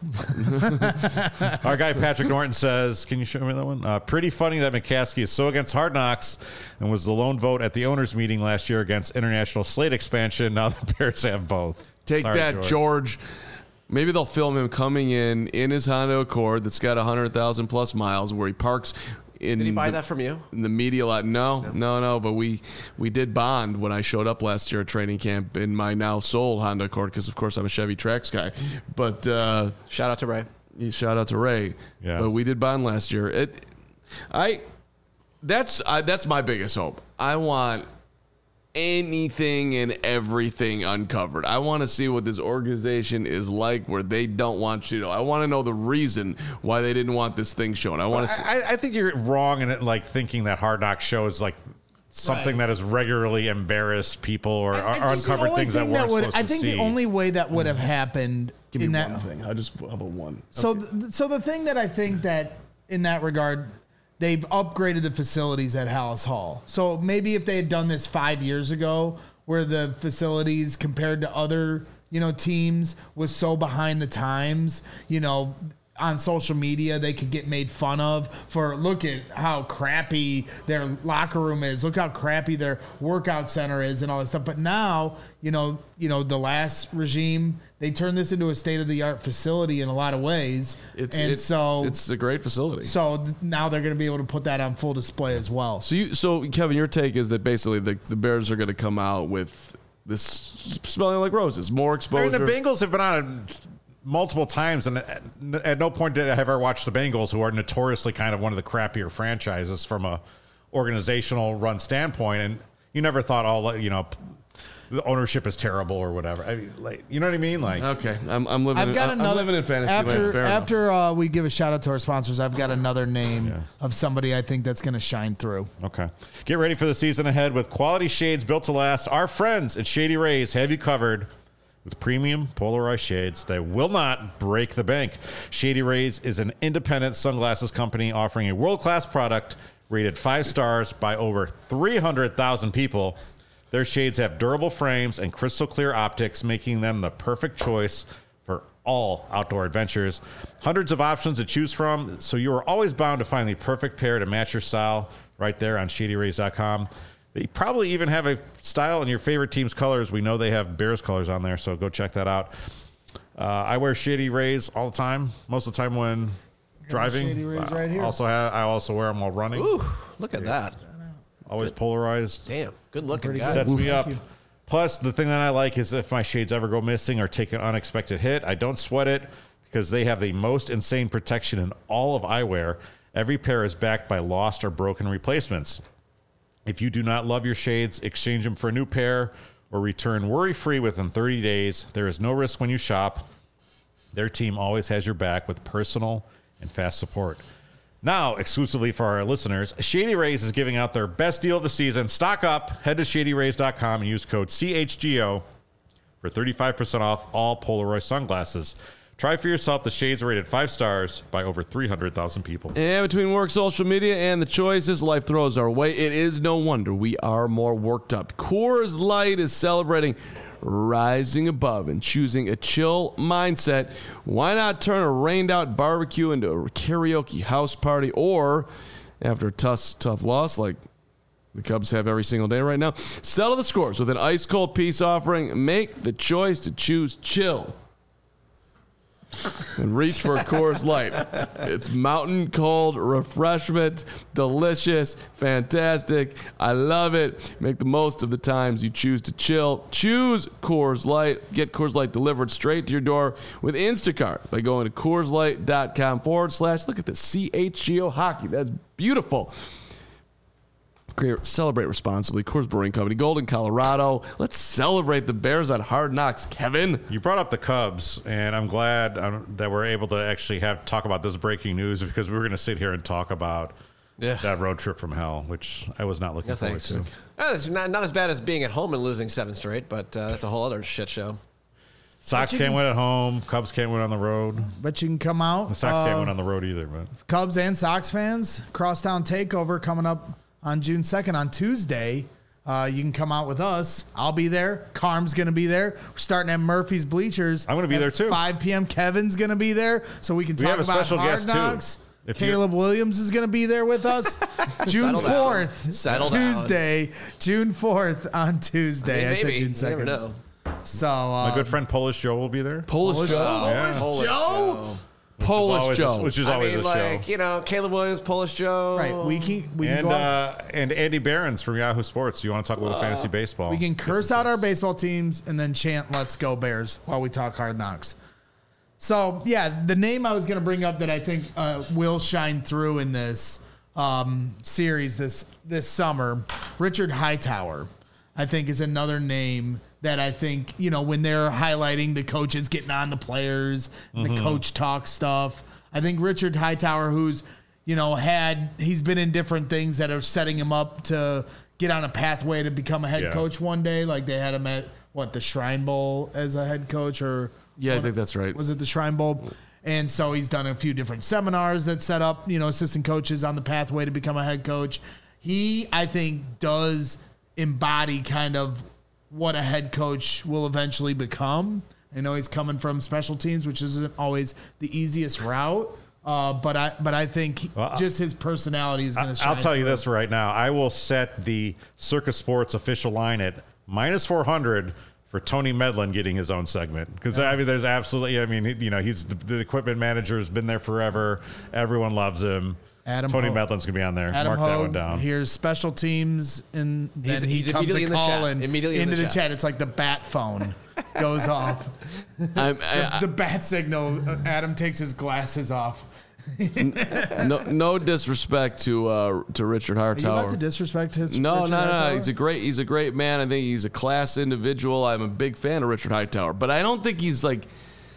Speaker 4: Go.
Speaker 1: Our guy Patrick Norton says, "Can you show me that one?" Uh, pretty funny that McCaskey is so against Hard Knocks and was the lone vote at the owners' meeting last year against international slate expansion. Now the Bears have both.
Speaker 2: Take
Speaker 1: Sorry,
Speaker 2: that, George. Maybe they'll film him coming in in his Honda Accord that's got one hundred thousand plus miles where he parks. In
Speaker 4: Did he buy
Speaker 2: the,
Speaker 4: that from you?
Speaker 2: in the media lot? No, no, no. But we we did bond when I showed up last year at training camp in my now sold Honda Accord because of course I'm a Chevy Trax guy. But uh,
Speaker 4: Shout out to Ray.
Speaker 2: shout out to Ray.
Speaker 1: Yeah.
Speaker 2: But we did bond last year. It, I, that's I, that's my biggest hope. I want anything and everything uncovered. I want to see what this organization is like where they don't want you to know. I want to know the reason why they didn't want this thing shown. I want to see.
Speaker 1: I, I think you're wrong in it, like thinking that Hard Knocks shows like something
Speaker 3: Right.
Speaker 1: that has regularly embarrassed people or,
Speaker 3: I- I
Speaker 1: or
Speaker 3: think the
Speaker 1: uncovered
Speaker 3: only
Speaker 1: things that
Speaker 3: thing
Speaker 1: weren't
Speaker 3: would,
Speaker 1: supposed
Speaker 3: I
Speaker 1: to
Speaker 3: think
Speaker 1: see.
Speaker 3: the only way that would have happened
Speaker 2: Give me
Speaker 3: in that
Speaker 2: one thing. I just how about one.
Speaker 3: So, th- so the thing that I think that in that regard, they've upgraded the facilities at Hallis Hall. So maybe if they had done this five years ago, where the facilities compared to other, you know, teams was so behind the times, you know, on social media, they could get made fun of for look at how crappy their locker room is. Look how crappy their workout center is and all this stuff. But now, you know, you know, the last regime, they turned this into a state of the art facility in a lot of ways.
Speaker 2: It's
Speaker 3: and
Speaker 2: it-
Speaker 3: so
Speaker 2: it's a great facility.
Speaker 3: so th- now they're going to be able to put that on full display as well.
Speaker 2: So you, so Kevin, your take is that basically the, the Bears are going to come out with this smelling like roses, more
Speaker 1: I
Speaker 2: exposure.
Speaker 1: mean, the Bengals have been on it multiple times, and at, at no point did I ever watch the Bengals, who are notoriously kind of one of the crappier franchises from a organizational run standpoint. And you never thought, oh, you know, the ownership is terrible or whatever. I mean, like, you know what I mean? Like,
Speaker 2: okay, I'm, I'm living.
Speaker 3: I've
Speaker 2: in,
Speaker 3: got
Speaker 2: I'm
Speaker 3: another.
Speaker 2: living in fantasy
Speaker 3: after
Speaker 2: land. Fair
Speaker 3: after uh, we give a shout out to our sponsors, I've got another name
Speaker 1: Yeah.
Speaker 3: of somebody I think that's going to shine through.
Speaker 1: okay. Get ready for the season ahead with quality shades built to last. Our friends at Shady Rays have you covered with premium polarized shades that will not break the bank. Shady Rays is an independent sunglasses company offering a world-class product rated five stars by over three hundred thousand people. Their shades have durable frames and crystal clear optics, making them the perfect choice for all outdoor adventures. Hundreds of options to choose from, so you are always bound to find the perfect pair to match your style right there on shady rays dot com. They probably even have a style in your favorite team's colors. We know they have Bears colors on there, so go check that out. Uh, I wear Shady Rays all the time, most of the time when driving.
Speaker 3: Shady Rays right here.
Speaker 1: Also have, I also wear them while running.
Speaker 4: Ooh, look at that.
Speaker 1: Always polarized.
Speaker 4: Damn, good looking
Speaker 3: Pretty
Speaker 4: guy.
Speaker 1: Sets me up.
Speaker 3: you.
Speaker 1: Plus, the thing that I like is if my shades ever go missing or take an unexpected hit, I don't sweat it because they have the most insane protection in all of eyewear. Every pair is backed by lost or broken replacements. If you do not love your shades, exchange them for a new pair or return worry-free within thirty days. There is no risk when you shop. Their team always has your back with personal and fast support. Now, exclusively for our listeners, Shady Rays is giving out their best deal of the season. Stock up. Head to shady rays dot com and use code C H G O for thirty-five percent off all Polaroid sunglasses. Try for yourself. The shades are rated five stars by over three hundred thousand people.
Speaker 2: And between work, social media, and the choices life throws our way, it is no wonder we are more worked up. Coors Light is celebrating rising above and choosing a chill mindset. Why not turn a rained out barbecue into a karaoke house party, or after a tough, tough loss like the Cubs have every single day right now, settle the scores with an ice cold peace offering. Make the choice to choose chill and reach for a Coors Light. It's mountain cold refreshment, delicious, fantastic. I love it. Make the most of the times you choose to chill. Choose Coors Light. Get Coors Light delivered straight to your door with Instacart by going to Coors Light dot com forward slash. Look at the C H G O hockey. That's beautiful. Great. Celebrate responsibly. Coors Brewing Company, Golden, Colorado. Let's celebrate the Bears on Hard Knocks, Kevin.
Speaker 1: You brought up the Cubs, and I'm glad um, that we're able to actually have talk about this breaking news because we were going to sit here and talk about
Speaker 4: Yeah.
Speaker 1: that road trip from hell, which I was not looking
Speaker 4: No
Speaker 1: forward
Speaker 4: thanks.
Speaker 1: to.
Speaker 4: Uh, it's not, not as bad as being at home and losing seven straight, but uh, that's a whole other shit show.
Speaker 1: Sox
Speaker 3: you
Speaker 1: can't
Speaker 3: can-
Speaker 1: win at home. Cubs can't win on the road.
Speaker 3: But you can come out.
Speaker 1: The Sox
Speaker 3: uh,
Speaker 1: can't win on the road either. But
Speaker 3: Cubs and Sox fans, Crosstown Takeover coming up on June second on Tuesday. Uh, you can come out with us. I'll be there. Carm's going to be there. We're starting at Murphy's Bleachers.
Speaker 1: I'm gonna be
Speaker 3: at
Speaker 1: there, too.
Speaker 3: five p.m. Kevin's going to be there, so we can
Speaker 1: We
Speaker 3: talk
Speaker 1: have a
Speaker 3: about
Speaker 1: special
Speaker 3: Hard
Speaker 1: guest, too.
Speaker 3: Knocks.
Speaker 1: If you're-
Speaker 3: Caleb Williams is going to be there with us. June
Speaker 4: Settle down.
Speaker 3: fourth,
Speaker 4: Settle down.
Speaker 3: Tuesday. June fourth on Tuesday. I,
Speaker 4: I mean,
Speaker 3: said
Speaker 4: maybe.
Speaker 3: June
Speaker 4: You
Speaker 3: second.
Speaker 4: never know.
Speaker 3: So uh,
Speaker 1: my good friend Polish Joe will be there.
Speaker 2: Polish,
Speaker 3: Polish
Speaker 2: Joe.
Speaker 3: Joe.
Speaker 1: Yeah.
Speaker 4: Polish
Speaker 3: Joe?
Speaker 2: Polish
Speaker 1: Always
Speaker 2: Joe.
Speaker 1: a- which is
Speaker 4: I
Speaker 1: always
Speaker 4: mean,
Speaker 1: a
Speaker 4: like,
Speaker 1: show.
Speaker 4: you know, Caleb Williams, Polish Joe.
Speaker 3: right, we can we can
Speaker 1: And
Speaker 3: go out.
Speaker 1: uh, and Andy Behrens from Yahoo Sports. You want to talk a little fantasy baseball?
Speaker 3: We can
Speaker 1: Get
Speaker 3: curse
Speaker 1: some
Speaker 3: out our
Speaker 1: tips.
Speaker 3: baseball teams and then chant "Let's go Bears" while we talk Hard Knocks. So yeah, the name I was going to bring up that I think uh, will shine through in this um, series this this summer, Richard Hightower, I think is another name that I think, you know, when they're highlighting the coaches getting on the players and
Speaker 1: Mm-hmm.
Speaker 3: the coach talk stuff. I think Richard Hightower, who's, you know, had, he's been in different things that are setting him up to get on a pathway to become a head
Speaker 1: Yeah.
Speaker 3: coach one day. Like they had him at, what, the Shrine Bowl as a head coach, or
Speaker 2: Yeah, I think that's right.
Speaker 3: was it the Shrine Bowl? And so he's done a few different seminars that set up, you know, assistant coaches on the pathway to become a head coach. He, I think, does embody kind of what a head coach will eventually become. I know he's coming from special teams, which isn't always the easiest route. Uh, but I, but I think
Speaker 1: Well, I-
Speaker 3: just his personality is going to shine.
Speaker 1: I'll tell you
Speaker 3: through.
Speaker 1: this right now. I will set the Circus Sports official line at minus four hundred for Tony Medlin getting his own segment. Because, I mean, there's absolutely, I mean, he- you know, he's the, the equipment manager, has been there forever. Everyone loves him.
Speaker 3: Adam
Speaker 1: Tony
Speaker 3: Hogue.
Speaker 1: Medlin's going to be on there.
Speaker 3: Adam
Speaker 1: Mark that
Speaker 3: Hogue,
Speaker 1: one down.
Speaker 3: Here's special teams, and then
Speaker 4: He's-
Speaker 3: he
Speaker 4: he's
Speaker 3: comes
Speaker 4: immediately
Speaker 3: a
Speaker 4: in the chat.
Speaker 3: calling
Speaker 4: Immediately in
Speaker 3: into
Speaker 4: the
Speaker 3: the
Speaker 4: chat.
Speaker 3: chat. It's like the bat phone goes off.
Speaker 2: I'm, I,
Speaker 3: The bat signal. uh, Adam takes his glasses off.
Speaker 2: I, no, no disrespect to uh, to Richard
Speaker 3: Are you about to
Speaker 2: Hightower.
Speaker 3: disrespect his?
Speaker 2: No,
Speaker 3: Richard
Speaker 2: no, no,
Speaker 3: Hightower?
Speaker 2: He's a great. He's a great man. I think he's a class individual. I'm a big fan of Richard Hightower, but I don't think he's like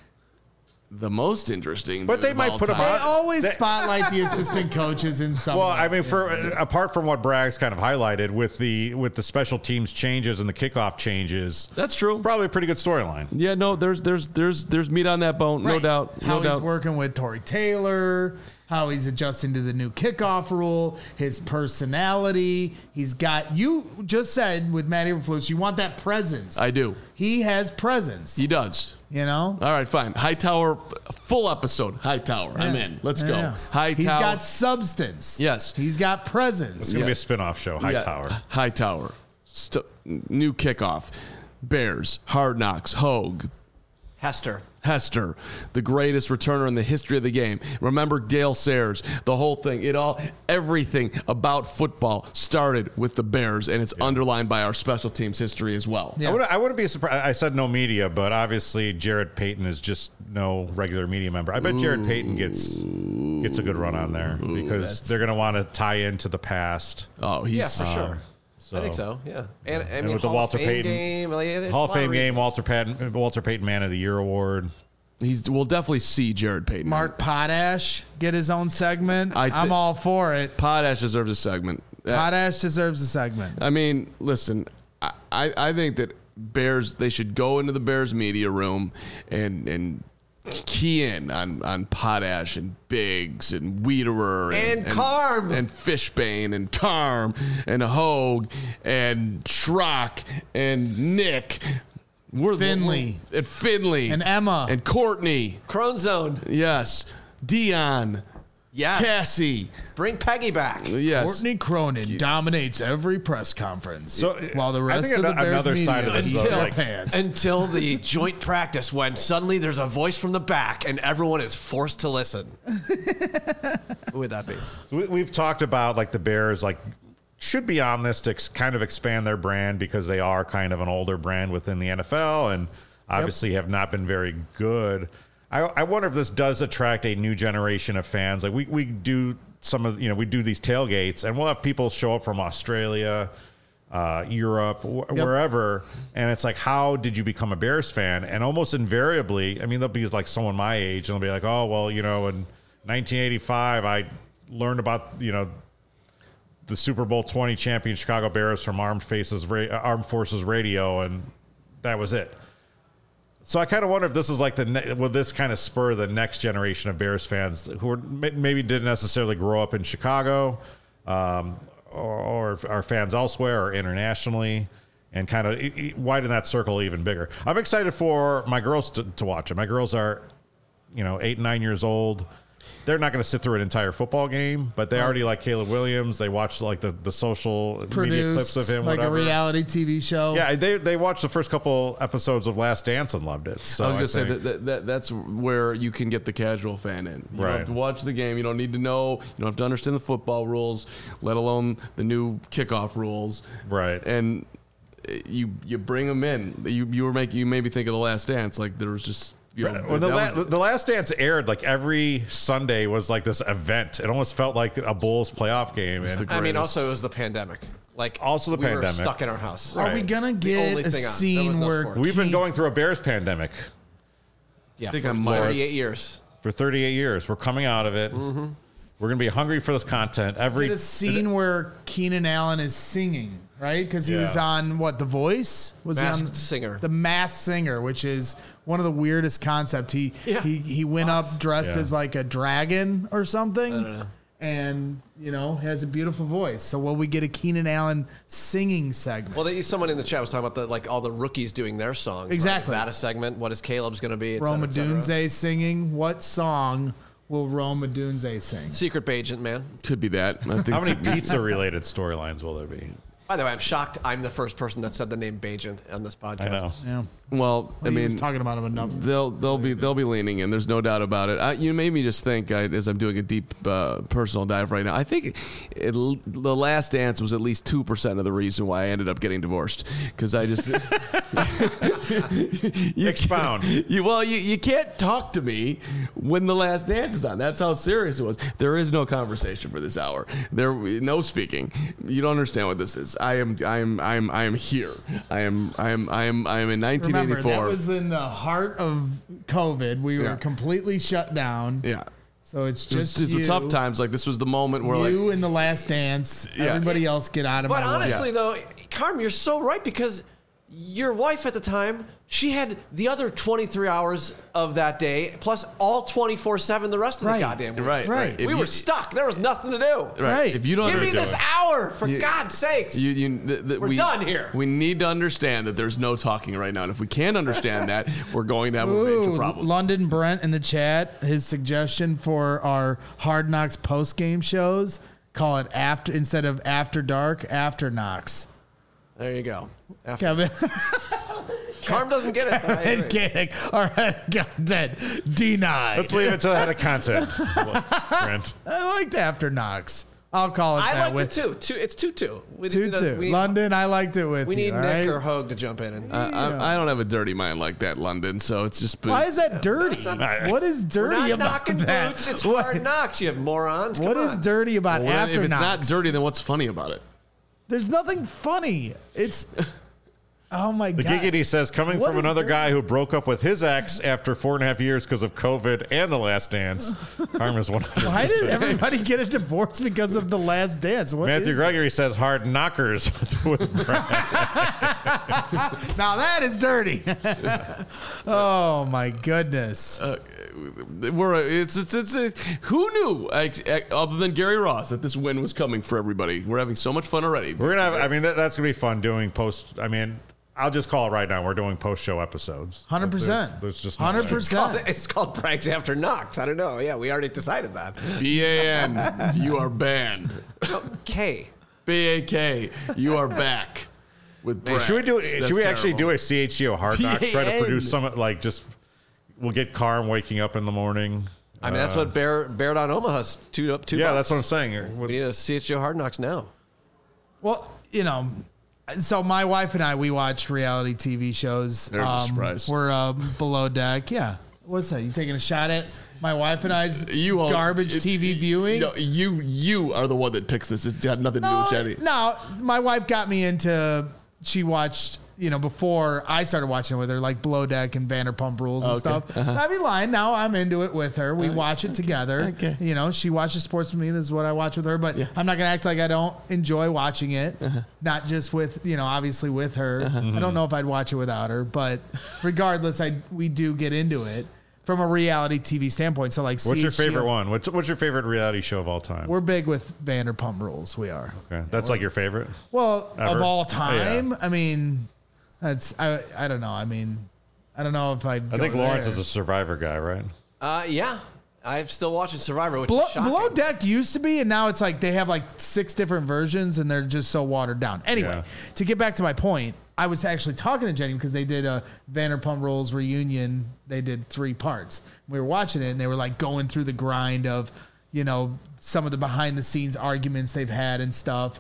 Speaker 2: the most interesting.
Speaker 1: But
Speaker 2: dude
Speaker 1: they
Speaker 2: of
Speaker 1: might
Speaker 2: all
Speaker 1: put him
Speaker 2: time.
Speaker 3: They
Speaker 1: on-
Speaker 3: always
Speaker 1: That-
Speaker 3: spotlight the assistant coaches in some.
Speaker 1: Well,
Speaker 3: way.
Speaker 1: I mean, for apart from what Bragg's kind of highlighted with the with the special teams changes and the kickoff changes,
Speaker 2: That's true.
Speaker 1: probably a pretty good storyline.
Speaker 2: Yeah, no, there's there's there's there's meat on that bone, no
Speaker 3: Right.
Speaker 2: doubt,
Speaker 3: How
Speaker 2: no
Speaker 3: he's
Speaker 2: doubt.
Speaker 3: working with Torrey Taylor, how he's adjusting to the new kickoff rule, his personality. He's got, you just said with Matty Eberflus, you want that presence.
Speaker 2: I do.
Speaker 3: He has presence.
Speaker 2: He does.
Speaker 3: you know?
Speaker 2: All right, fine. Hightower, full episode. Hightower, I'm
Speaker 3: Yeah.
Speaker 2: in. Let's
Speaker 3: Yeah.
Speaker 2: go. Hightower.
Speaker 3: He's got substance.
Speaker 2: Yes.
Speaker 3: He's got presence.
Speaker 1: It's gonna
Speaker 2: Yeah.
Speaker 1: be a spin-off show, Hightower.
Speaker 2: Yeah. Hightower. St- new kickoff. Bears. Hard Knocks. Hogue.
Speaker 4: Hester.
Speaker 2: Hester, the greatest returner in the history of the game. Remember Dale Sayers, the whole thing. It all, everything about football started with the Bears, and it's underlined by our special teams history as well.
Speaker 3: Yeah.
Speaker 1: I, would, I wouldn't be surprised. I said no media, but obviously Jared Payton is just no regular media member. I bet Jared Payton gets gets a good run on there because they're going to want to tie into the past.
Speaker 2: Oh, he's
Speaker 4: Yeah, for sure.
Speaker 1: So,
Speaker 4: I think so. Yeah, and I
Speaker 1: And
Speaker 4: mean
Speaker 1: with the
Speaker 4: Hall
Speaker 1: Walter
Speaker 4: of Fame
Speaker 1: Payton
Speaker 4: game, like, there's
Speaker 1: Hall
Speaker 4: a
Speaker 1: of
Speaker 4: lot
Speaker 1: Fame game,
Speaker 4: reasons.
Speaker 1: Walter Payton, Walter Payton Man of the Year award.
Speaker 2: he's. We'll definitely see Jared Payton.
Speaker 3: Mark Potash get his own segment.
Speaker 2: I thi-
Speaker 3: I'm all for it.
Speaker 2: Potash deserves a segment. Uh,
Speaker 3: Potash deserves a segment.
Speaker 2: I mean, listen, I, I, I think that Bears, they should go into the Bears media room and and key in on, on Potash and Biggs and Wiederer
Speaker 4: And Carm.
Speaker 2: and Fishbane and Carm and Hogue and Schrock and Nick. We're the-
Speaker 3: Finley.
Speaker 2: and Finley
Speaker 3: And Emma.
Speaker 2: and Courtney.
Speaker 4: Crone Zone.
Speaker 2: Yes, Dion,
Speaker 4: Yes.
Speaker 2: Cassie.
Speaker 4: Bring Peggy back.
Speaker 2: Yes,
Speaker 3: Courtney Cronin dominates every press conference.
Speaker 1: So,
Speaker 3: while the
Speaker 1: I
Speaker 3: rest
Speaker 1: think
Speaker 3: of the
Speaker 1: ano-
Speaker 3: Bears
Speaker 1: another
Speaker 3: media
Speaker 1: side of this
Speaker 3: is
Speaker 1: is,
Speaker 3: in their
Speaker 1: like-
Speaker 3: pants.
Speaker 4: Until the joint practice when suddenly there's a voice from the back and everyone is forced to listen. Who would that be?
Speaker 1: We, we've talked about like the Bears, like should be on this to ex- kind of expand their brand because they are kind of an older brand within the N F L and obviously have not been very good. I, I wonder if this does attract a new generation of fans. Like we, we do some of, you know, we do these tailgates and we'll have people show up from Australia, uh, Europe, wh- wherever. And it's like, how did you become a Bears fan? And almost invariably, I mean, they'll be like someone my age and they'll be like, oh, well, you know, in nineteen eighty-five, I learned about, you know, the Super Bowl twenty champion Chicago Bears from Armed Faces, Ra- Armed Forces Radio, and that was it. So I kind of wonder if this is like the ne- will this kind of spur the next generation of Bears fans who are, may- maybe didn't necessarily grow up in Chicago, um, or, or are fans elsewhere or internationally, and kind of e- e- widen that circle even bigger. I'm excited for my girls to, to watch it. My girls are, you know, eight and nine years old. They're not going to sit through an entire football game, but they already like Caleb Williams. They watch like the, the social media
Speaker 3: Produced
Speaker 1: clips of him,
Speaker 3: like
Speaker 1: whatever.
Speaker 3: a reality T V show.
Speaker 1: Yeah, they they watched the first couple episodes of Last Dance and loved it. So
Speaker 2: I was going to say
Speaker 1: think-
Speaker 2: that, that, that that's where you can get the casual fan in. You
Speaker 1: Right.
Speaker 2: don't have to watch the game. You don't need to know. You don't have to understand the football rules, let alone the new kickoff rules.
Speaker 1: Right.
Speaker 2: And uh, you you bring them in. You you were making you made me think of the Last Dance. Like there was just you know
Speaker 1: when the,
Speaker 2: that
Speaker 1: la-
Speaker 2: was-
Speaker 1: the Last Dance aired, like every Sunday was like this event. It almost felt like a Bulls playoff game. And
Speaker 2: the
Speaker 4: I mean,
Speaker 2: Greatest.
Speaker 4: also it was the pandemic. Like
Speaker 1: Also the
Speaker 4: we
Speaker 1: pandemic.
Speaker 4: were stuck in our house.
Speaker 3: Are we
Speaker 1: Right.
Speaker 3: gonna
Speaker 4: the
Speaker 3: get
Speaker 4: only
Speaker 3: a
Speaker 4: thing on. There was
Speaker 3: scene
Speaker 4: no
Speaker 3: where
Speaker 4: sport.
Speaker 1: we've been
Speaker 3: Key-
Speaker 1: going through a Bears pandemic
Speaker 4: Yeah,
Speaker 2: think
Speaker 4: for
Speaker 2: I might-
Speaker 4: thirty-eight years.
Speaker 1: for thirty-eight years. We're coming out of it.
Speaker 4: Mm-hmm.
Speaker 1: We're going to be hungry for this content. Every
Speaker 3: get a scene where Keenan Allen is singing, right? Because he
Speaker 1: Yeah.
Speaker 3: was on what, The Voice? Was he
Speaker 4: Masked
Speaker 3: on
Speaker 4: Singer.
Speaker 3: The Masked Singer, which is one of the weirdest concepts. He
Speaker 4: Yeah.
Speaker 3: he he went up dressed
Speaker 1: Yeah.
Speaker 3: as like a dragon or something, and you know has a beautiful voice. So will we get a Keenan Allen singing segment?
Speaker 4: Well, they, someone in the chat was talking about the like all the rookies doing their songs. right?
Speaker 3: Exactly.
Speaker 4: Is that a segment? What is Caleb's going to be? Et cetera,
Speaker 3: Roma
Speaker 4: et cetera.
Speaker 3: Dunze singing. What song will Roma Dunze sing?
Speaker 4: Secret agent, man.
Speaker 2: could be that. I think
Speaker 1: how many
Speaker 2: it's-
Speaker 1: pizza related storylines will there be?
Speaker 4: By the way, I'm shocked. I'm the first person that said the name Bajent on this podcast.
Speaker 1: I know.
Speaker 3: Yeah.
Speaker 2: Well, I
Speaker 3: he
Speaker 2: mean,
Speaker 3: was talking about him enough.
Speaker 2: They'll they'll be they'll be leaning in. There's no doubt about it. I, you made me just think I, as I'm doing a deep uh, personal dive right now. I think it, the Last Dance was at least two percent of the reason why I ended up getting divorced because I just
Speaker 1: you expound.
Speaker 2: You, well, you, you can't talk to me when the Last Dance is on. That's how serious it was. There is no conversation for this hour. There no speaking. You don't understand what this is. I am I am I am I am here. I am I am I am I am in nineteen eighty-four.
Speaker 3: Remember, that was in the heart of COVID. We were
Speaker 2: Yeah.
Speaker 3: completely shut down.
Speaker 2: Yeah.
Speaker 3: So it's
Speaker 2: It was-
Speaker 3: just
Speaker 2: These were
Speaker 3: you,
Speaker 2: tough times. Like this was the moment where
Speaker 3: you
Speaker 2: like
Speaker 3: in the Last Dance.
Speaker 2: Yeah.
Speaker 3: Everybody else get out of
Speaker 4: But
Speaker 3: my way.
Speaker 4: honestly, though, Carm, you're so right because your wife at the time, she had the other twenty-three hours of that day plus all twenty-four seven the rest of
Speaker 3: Right.
Speaker 4: the goddamn week.
Speaker 2: right,
Speaker 3: Right.
Speaker 2: right. If
Speaker 4: We
Speaker 2: you-
Speaker 4: were stuck. There was nothing to do.
Speaker 2: right.
Speaker 3: Right.
Speaker 2: If you don't
Speaker 4: Give me
Speaker 2: understand-
Speaker 4: this hour, for
Speaker 2: You-
Speaker 4: God's sakes.
Speaker 2: You, you, th- th-
Speaker 4: We're
Speaker 2: we,
Speaker 4: done here.
Speaker 2: We need to understand that there's no talking right now, and if we can't understand that, we're going to have a major
Speaker 3: Ooh,
Speaker 2: problem.
Speaker 3: London Brent in the chat, his suggestion for our Hard Knocks post game shows, call it after instead of After Dark, After Knocks.
Speaker 4: there you go. After,
Speaker 3: Kevin,
Speaker 4: Carm doesn't get it. but I agree.
Speaker 3: kidding. All right, content denied.
Speaker 1: Let's leave it to that of content. Brent.
Speaker 3: I liked After Knocks. I'll call it
Speaker 4: I
Speaker 3: that.
Speaker 4: liked it too. Two, it's two two. We just
Speaker 3: Two
Speaker 4: need a-
Speaker 3: two.
Speaker 4: we need-
Speaker 3: London, I liked it with
Speaker 4: We
Speaker 3: you.
Speaker 4: need
Speaker 3: all
Speaker 4: Nick
Speaker 3: right?
Speaker 4: or Hogue to jump in. And,
Speaker 2: I, I, I don't have a dirty mind like that, London. So it's just. Been,
Speaker 3: Why is that dirty? What is
Speaker 4: We're
Speaker 3: dirty
Speaker 4: not
Speaker 3: about
Speaker 4: knocking
Speaker 3: that?
Speaker 4: boots. It's
Speaker 3: What-
Speaker 4: hard knocks, you morons. Come
Speaker 3: What is
Speaker 4: on.
Speaker 3: dirty about
Speaker 2: Well,
Speaker 3: After
Speaker 2: if it's
Speaker 3: Knocks?
Speaker 2: not dirty, then what's funny about it?
Speaker 3: There's nothing funny. It's oh my
Speaker 1: The
Speaker 3: god.
Speaker 1: Giggity says, coming
Speaker 3: What
Speaker 1: from
Speaker 3: is
Speaker 1: another
Speaker 3: dirty?
Speaker 1: guy who broke up with his ex after four and a half years because of COVID and The Last Dance, Carm is one hundred percent.
Speaker 3: Why did everybody get a divorce because of The Last Dance? What
Speaker 1: Matthew
Speaker 3: is
Speaker 1: Gregory says, hard knockers with Brent.
Speaker 3: that? Now that is dirty. Oh my goodness.
Speaker 2: Uh, we're it's it's, it's uh, who knew uh, other than Gary Ross that this win was coming for everybody. We're having so much fun already.
Speaker 1: We're going to have, I mean, that, that's going to be fun doing post, I mean, I'll just call it right now. We're doing post show episodes.
Speaker 3: one hundred percent.
Speaker 1: There's, there's just no
Speaker 3: one hundred
Speaker 1: way.
Speaker 4: It's called,
Speaker 3: percent.
Speaker 4: it's called Pranks After Knocks. I don't know. Yeah, we already decided that.
Speaker 2: B A N, you are banned.
Speaker 4: K.
Speaker 2: B A K, you are back with Brad.
Speaker 1: Should we do?
Speaker 2: That's
Speaker 1: should we actually
Speaker 2: terrible.
Speaker 1: do a C H G O Hard Knocks? Try to
Speaker 2: P A N.
Speaker 1: produce some like just. We'll get Carm waking up in the morning.
Speaker 4: I mean, that's
Speaker 1: Uh,
Speaker 4: what Bear Bear Down Omaha's two up two.
Speaker 1: Yeah,
Speaker 4: bucks.
Speaker 1: that's what I'm saying.
Speaker 4: We need a C H G O Hard Knocks now.
Speaker 3: Well, you know, so my wife and I, we watch reality T V shows.
Speaker 2: There's a surprise.
Speaker 3: We're uh, below deck. Yeah. What's that? You taking a shot at my wife and I's
Speaker 2: You all-
Speaker 3: garbage
Speaker 2: it-
Speaker 3: T V
Speaker 2: it-
Speaker 3: viewing?
Speaker 2: No, you you are the one that picks this. It's got nothing to do
Speaker 3: No,
Speaker 2: with Jenny.
Speaker 3: no, my wife got me into. She watched, you know, before I started watching it with her, like Below Deck and Vanderpump Rules and
Speaker 2: Okay.
Speaker 3: stuff.
Speaker 2: Uh-huh.
Speaker 3: I'd be lying. Now I'm into it with her. We watch it together.
Speaker 2: Okay.
Speaker 3: You know, she watches sports with me. This is what I watch with her. But I'm not gonna act like I don't enjoy watching it.
Speaker 2: Uh-huh.
Speaker 3: Not just with, you know, obviously with her. I don't know if I'd watch it without her, but regardless, I we do get into it from a reality T V standpoint. So like,
Speaker 1: What's your
Speaker 3: C H G O
Speaker 1: favorite one? What's, what's your favorite reality show of all time?
Speaker 3: We're big with Vanderpump Rules. We are.
Speaker 1: Okay, that's like your favorite.
Speaker 3: Well,
Speaker 1: Ever?
Speaker 3: of all
Speaker 1: Oh,
Speaker 3: time,
Speaker 1: yeah.
Speaker 3: I mean, that's I. I don't know. I mean, I don't know if I'd.
Speaker 1: I think Lawrence is a Survivor guy, right?
Speaker 4: Uh, yeah, I'm still watching Survivor, which
Speaker 3: Below,
Speaker 4: is shocking.
Speaker 3: Below Deck used to be, and now it's like they have like six different versions, and they're just so watered down. Anyway,
Speaker 1: Yeah.
Speaker 3: to get back to my point, I was actually talking to Jenny because they did a Vanderpump Rules reunion. They did three parts. We were watching it, and they were like going through the grind of, you know, some of the behind the scenes arguments they've had and stuff,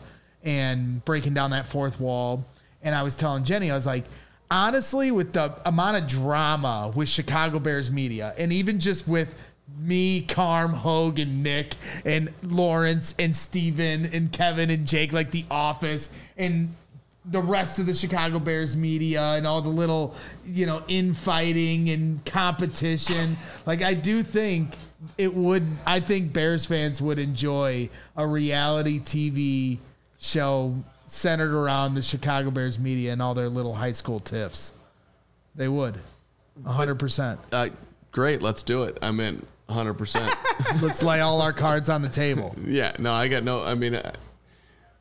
Speaker 3: and breaking down that fourth wall. And I was telling Jenny, I was like, honestly, with the amount of drama with Chicago Bears media, and even just with me, Carm, Hogue, and Nick, and Lawrence, and Steven, and Kevin, and Jake, like The Office, and the rest of the Chicago Bears media, and all the little, you know, infighting and competition. Like, I do think it would, I think Bears fans would enjoy a reality T V show centered around the Chicago Bears media and all their little high school tiffs. They would. one hundred percent.
Speaker 2: Uh, great, let's do it. I'm in one hundred percent.
Speaker 3: Let's lay all our cards on the table.
Speaker 2: Yeah, no, I got no. I mean, uh,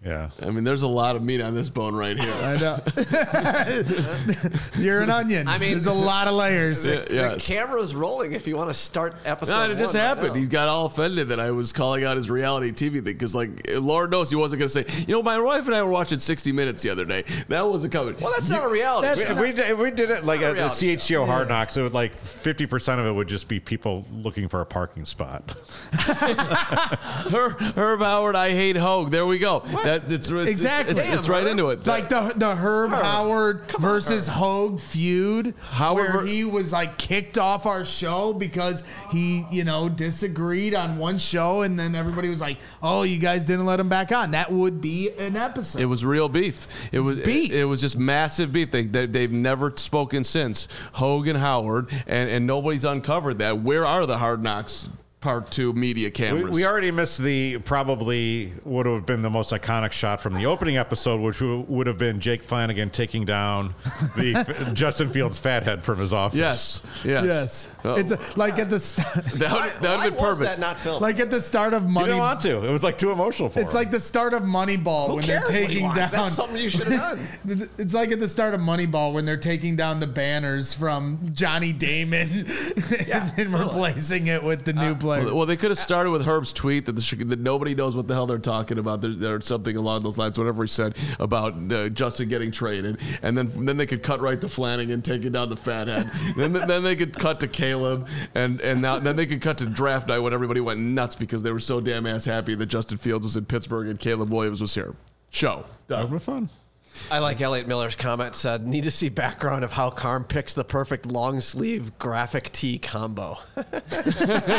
Speaker 1: Yeah.
Speaker 2: I mean, there's a lot of meat on this bone right here.
Speaker 3: I know. You're an onion.
Speaker 4: I mean-
Speaker 3: there's a lot of layers.
Speaker 2: Yeah, yes.
Speaker 4: The camera's rolling if you want to start episode
Speaker 2: No, it just
Speaker 4: one right
Speaker 2: happened.
Speaker 4: now.
Speaker 2: He got all offended that I was calling out his reality T V thing because, like, Lord knows he wasn't going to say, you know, my wife and I were watching sixty minutes the other day. That wasn't coming.
Speaker 4: Well, that's not a reality.
Speaker 3: that's
Speaker 1: If we, if we did it like
Speaker 4: not a
Speaker 1: at the
Speaker 4: reality
Speaker 1: C H C O Hard Knocks, it would like fifty percent of it would just be people looking for a parking spot.
Speaker 2: Her, Herb Howard, I hate Hogue. There we go. That, it's, it's,
Speaker 3: Exactly.
Speaker 2: It's, it's right
Speaker 4: Damn,
Speaker 2: into it.
Speaker 3: Like the the Herb,
Speaker 4: Herb.
Speaker 3: Howard
Speaker 4: Come on,
Speaker 3: versus
Speaker 4: Herb.
Speaker 3: Hogue feud,
Speaker 2: Howard
Speaker 3: where
Speaker 2: ver-
Speaker 3: he was like kicked off our show because he, you know, disagreed on one show, and then everybody was like, "Oh, you guys didn't let him back on." That would be an episode.
Speaker 2: It was real beef. It was
Speaker 3: beef.
Speaker 2: It, it was just massive beef. They, they they've never spoken since. Hogan, Howard, and and nobody's uncovered that. Where are the Hard Knocks Part Two media
Speaker 1: We,
Speaker 2: cameras?
Speaker 1: we already missed the probably would have been the most iconic shot from the opening episode, which w- would have been Jake Flanagan taking down the Justin Fields fathead from his office.
Speaker 2: Yes. Yes.
Speaker 3: yes,
Speaker 2: Oh.
Speaker 3: it's a, like at the start,
Speaker 2: that would,
Speaker 4: Why,
Speaker 2: that would
Speaker 4: why
Speaker 2: have been
Speaker 4: was
Speaker 2: perfect.
Speaker 4: that not filmed?
Speaker 3: like at the start of
Speaker 1: You
Speaker 3: Money.
Speaker 1: didn't want to. It was like too emotional for
Speaker 3: It's
Speaker 1: him.
Speaker 3: like the start of Moneyball
Speaker 4: Who
Speaker 3: when
Speaker 4: cares
Speaker 3: they're
Speaker 4: what he
Speaker 3: taking
Speaker 4: wants?
Speaker 3: down.
Speaker 4: That's something you should have done.
Speaker 3: It's like at the start of Moneyball when they're taking down the banners from Johnny Damon
Speaker 4: Yeah,
Speaker 3: and then
Speaker 4: totally.
Speaker 3: replacing it with the new player.
Speaker 2: Well, well, they could have started with Herb's tweet that, the, Chi- that nobody knows what the hell they're talking about. There, there's something along those lines, whatever he said about uh, Justin getting traded, and then then they could cut right to Flanagan taking down the fathead. then then they could cut to Caleb, and and now then they could cut to draft night when everybody went nuts because they were so damn ass happy that Justin Fields was in Pittsburgh and Caleb Williams was here. Show.
Speaker 1: that would have been fun.
Speaker 4: I like Elliot Miller's comment said, need to see background of how Carm picks the perfect long sleeve graphic tee combo.
Speaker 3: That's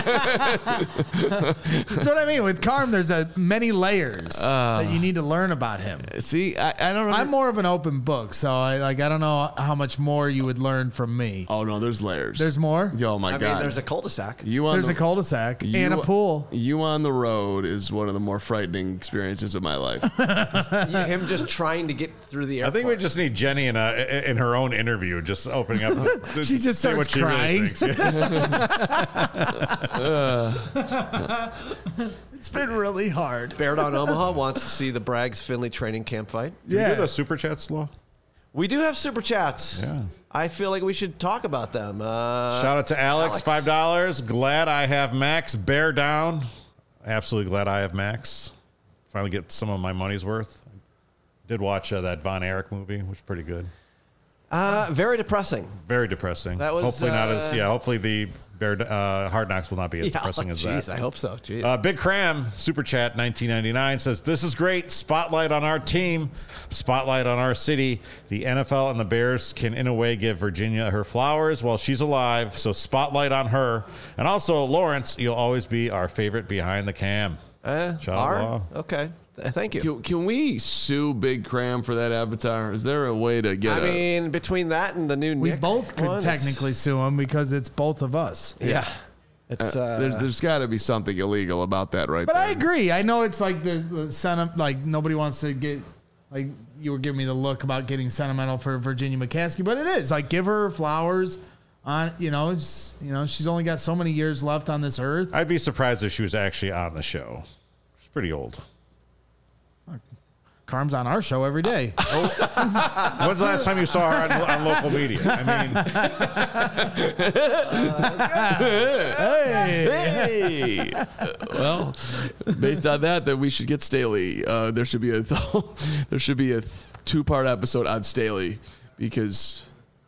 Speaker 3: what I mean. With Carm, there's a many layers that you need to learn about him.
Speaker 2: See, I, I don't know.
Speaker 3: I'm more of an open book, so I like I don't know how much more you would learn from me.
Speaker 2: Oh no, there's layers.
Speaker 3: There's more.
Speaker 2: Oh my
Speaker 4: I
Speaker 2: god.
Speaker 4: mean, there's a cul-de-sac.
Speaker 2: you on
Speaker 3: There's
Speaker 2: the,
Speaker 3: a cul-de-sac
Speaker 2: you-
Speaker 3: and a pool.
Speaker 2: You on the road is one of the more frightening experiences of my life.
Speaker 4: Him just trying to get through the
Speaker 1: I
Speaker 4: airport.
Speaker 1: think we just need Jenny in a in her own interview, just opening up. The,
Speaker 3: She just
Speaker 1: say
Speaker 3: starts
Speaker 1: what she really
Speaker 3: crying.
Speaker 1: thinks. Yeah.
Speaker 3: It's been really hard.
Speaker 4: Bear Down Omaha wants to see the Braggs Finley training camp fight.
Speaker 1: Can we
Speaker 3: Yeah.
Speaker 1: do the super chats, Law?
Speaker 4: We do have super chats.
Speaker 1: Yeah.
Speaker 4: I feel like we should talk about them. Uh,
Speaker 1: Shout out to Alex,
Speaker 4: Alex.
Speaker 1: five dollars. Glad I have Max. Bear down. Absolutely glad I have Max. Finally get some of my money's worth. Did watch uh, that Von Erich movie, which was pretty good.
Speaker 4: uh, very depressing.
Speaker 1: Very depressing.
Speaker 4: That was,
Speaker 1: hopefully not as
Speaker 4: uh,
Speaker 1: yeah. Hopefully the Bear uh, Hard Knocks will not be as
Speaker 4: Yeah,
Speaker 1: depressing as
Speaker 4: jeez,
Speaker 1: that.
Speaker 4: I hope so. Jeez.
Speaker 1: Uh, Big Cram, Super Chat nineteen ninety-nine says, this is great. Spotlight on our team. Spotlight on our city. The N F L and the Bears can, in a way, give Virginia her flowers while she's alive. So spotlight on her. And also, Lawrence, you'll always be our favorite behind the cam.
Speaker 4: Uh,
Speaker 1: Shout out
Speaker 4: are?
Speaker 1: Law.
Speaker 4: Okay. Th- Thank you.
Speaker 2: Can, can we sue Big Cram for that avatar? Is there a way to get
Speaker 4: I
Speaker 2: a...
Speaker 4: mean, between that and the new
Speaker 3: We
Speaker 4: Nick
Speaker 3: both could
Speaker 4: one, it's-
Speaker 3: technically sue him because it's both of us.
Speaker 4: Yeah. It's uh,
Speaker 2: there's there's got to be something illegal about that right
Speaker 3: But
Speaker 2: there.
Speaker 3: I agree. I know it's like the, the senti- like nobody wants to get like you were giving me the look about getting sentimental for Virginia McCaskey, but it is like give her flowers on you know it's, you know she's only got so many years left on this earth.
Speaker 1: I'd be surprised if she was actually on the show. She's pretty old.
Speaker 3: Carm's on our show every day.
Speaker 1: When's the last time you saw her on, on local media? I mean,
Speaker 2: Hey. Uh, well, based on that, then we should get Staley. Uh, there should be a there should be a two part episode on Staley because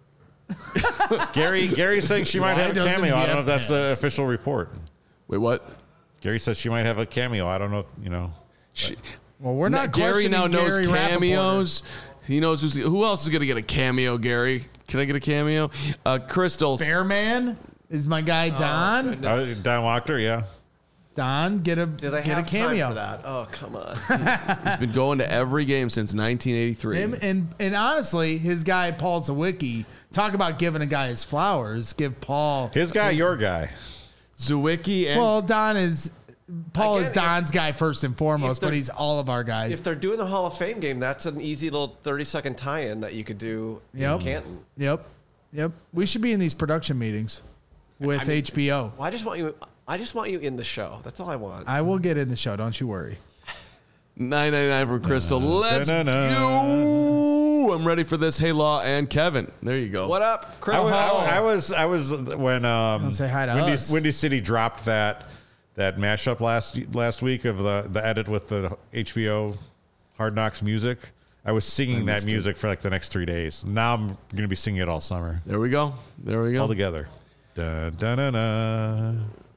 Speaker 1: Gary Gary's saying she might
Speaker 3: Why
Speaker 1: have a
Speaker 3: doesn't
Speaker 1: cameo.
Speaker 3: he
Speaker 1: I don't know
Speaker 3: have
Speaker 1: if that's an
Speaker 3: pants?
Speaker 1: official report.
Speaker 2: wait what?
Speaker 1: Gary says she might have a cameo. I don't know, if, you know.
Speaker 2: She,
Speaker 3: Well, we're not.
Speaker 2: Gary now
Speaker 3: questioning
Speaker 2: knows
Speaker 3: Gary Rappaport.
Speaker 2: cameos. He knows who's who else is going to get a cameo. Gary, can I get a cameo? Uh, Crystal.
Speaker 3: Bearman is my guy Don.
Speaker 1: Uh, Don Wachter, yeah.
Speaker 3: Don, get a
Speaker 4: do they
Speaker 3: get
Speaker 4: have
Speaker 3: a cameo.
Speaker 4: time for that? Oh, come on.
Speaker 2: He's been going to every game since nineteen eighty-three.
Speaker 3: Him and and honestly, his guy Paul Zawicki. Talk about giving a guy his flowers. Give Paul
Speaker 1: His guy, your guy.
Speaker 2: Zawicki and
Speaker 3: Well, Don is Paul
Speaker 4: Again,
Speaker 3: is Don's guy first and foremost,
Speaker 4: if they're-
Speaker 3: but he's all of our guys.
Speaker 4: If they're doing the Hall of Fame game, that's an easy little thirty second tie in that you could do
Speaker 3: Yep.
Speaker 4: in Canton.
Speaker 3: Yep, yep. We should be in these production meetings with
Speaker 4: I mean-
Speaker 3: H B O.
Speaker 4: Well, I just want you. I just want you in the show. That's all I want.
Speaker 3: I will get in the show. Don't you worry.
Speaker 2: nine ninety-nine from Crystal. Let's
Speaker 1: Da-na-na.
Speaker 2: go. I'm ready for this. Hey, Law and Kevin. There you go.
Speaker 4: What up,
Speaker 1: I,
Speaker 4: Chris?
Speaker 1: wa- I, I was I was when um
Speaker 3: Don't say hi to
Speaker 1: Windy,
Speaker 3: us.
Speaker 1: Windy City dropped that that mashup last last week of the the edit with the H B O Hard Knocks music. I was singing that music for like the next three days. Now I'm gonna be singing it all summer,
Speaker 2: There we go. There we go.
Speaker 1: all together. Da da na na.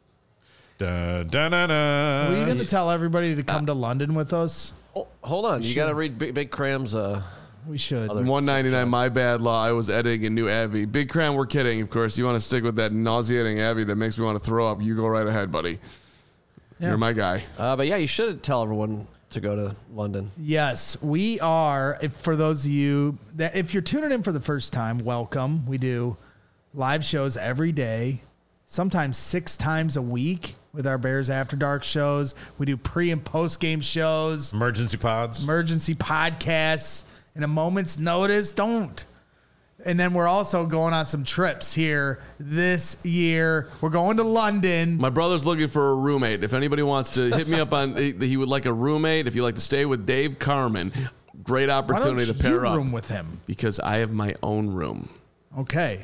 Speaker 1: Da da na na.
Speaker 3: Were you going to tell everybody to come to London with us?
Speaker 4: Oh, hold on. You got to read Big, Big Cram's. Uh,
Speaker 3: We should.
Speaker 2: one ninety-nine, my bad, Law. I was editing a new Abby. Big Cram, we're kidding, of course. You want to stick with that nauseating Abby that makes me want to throw up, you go right ahead, buddy.
Speaker 3: Yeah.
Speaker 2: You're my guy.
Speaker 4: uh, but yeah, you should tell everyone to go to London.
Speaker 3: Yes, we are. If, for those of you that, if you're tuning in for the first time, welcome. We do live shows every day, sometimes six times a week with our Bears After Dark shows. We do pre and post game shows,
Speaker 1: Emergency pods.
Speaker 3: emergency podcasts, in a moment's notice. Don't. And then we're also going on some trips here this year. We're going to London.
Speaker 2: My brother's looking for a roommate. If anybody wants to hit me up on, he would like a roommate. If you like to stay with Dave Carmen, great
Speaker 3: Why don't
Speaker 2: opportunity
Speaker 3: you
Speaker 2: to pair up.
Speaker 3: room with him?
Speaker 2: Because I have my own room.
Speaker 3: Okay.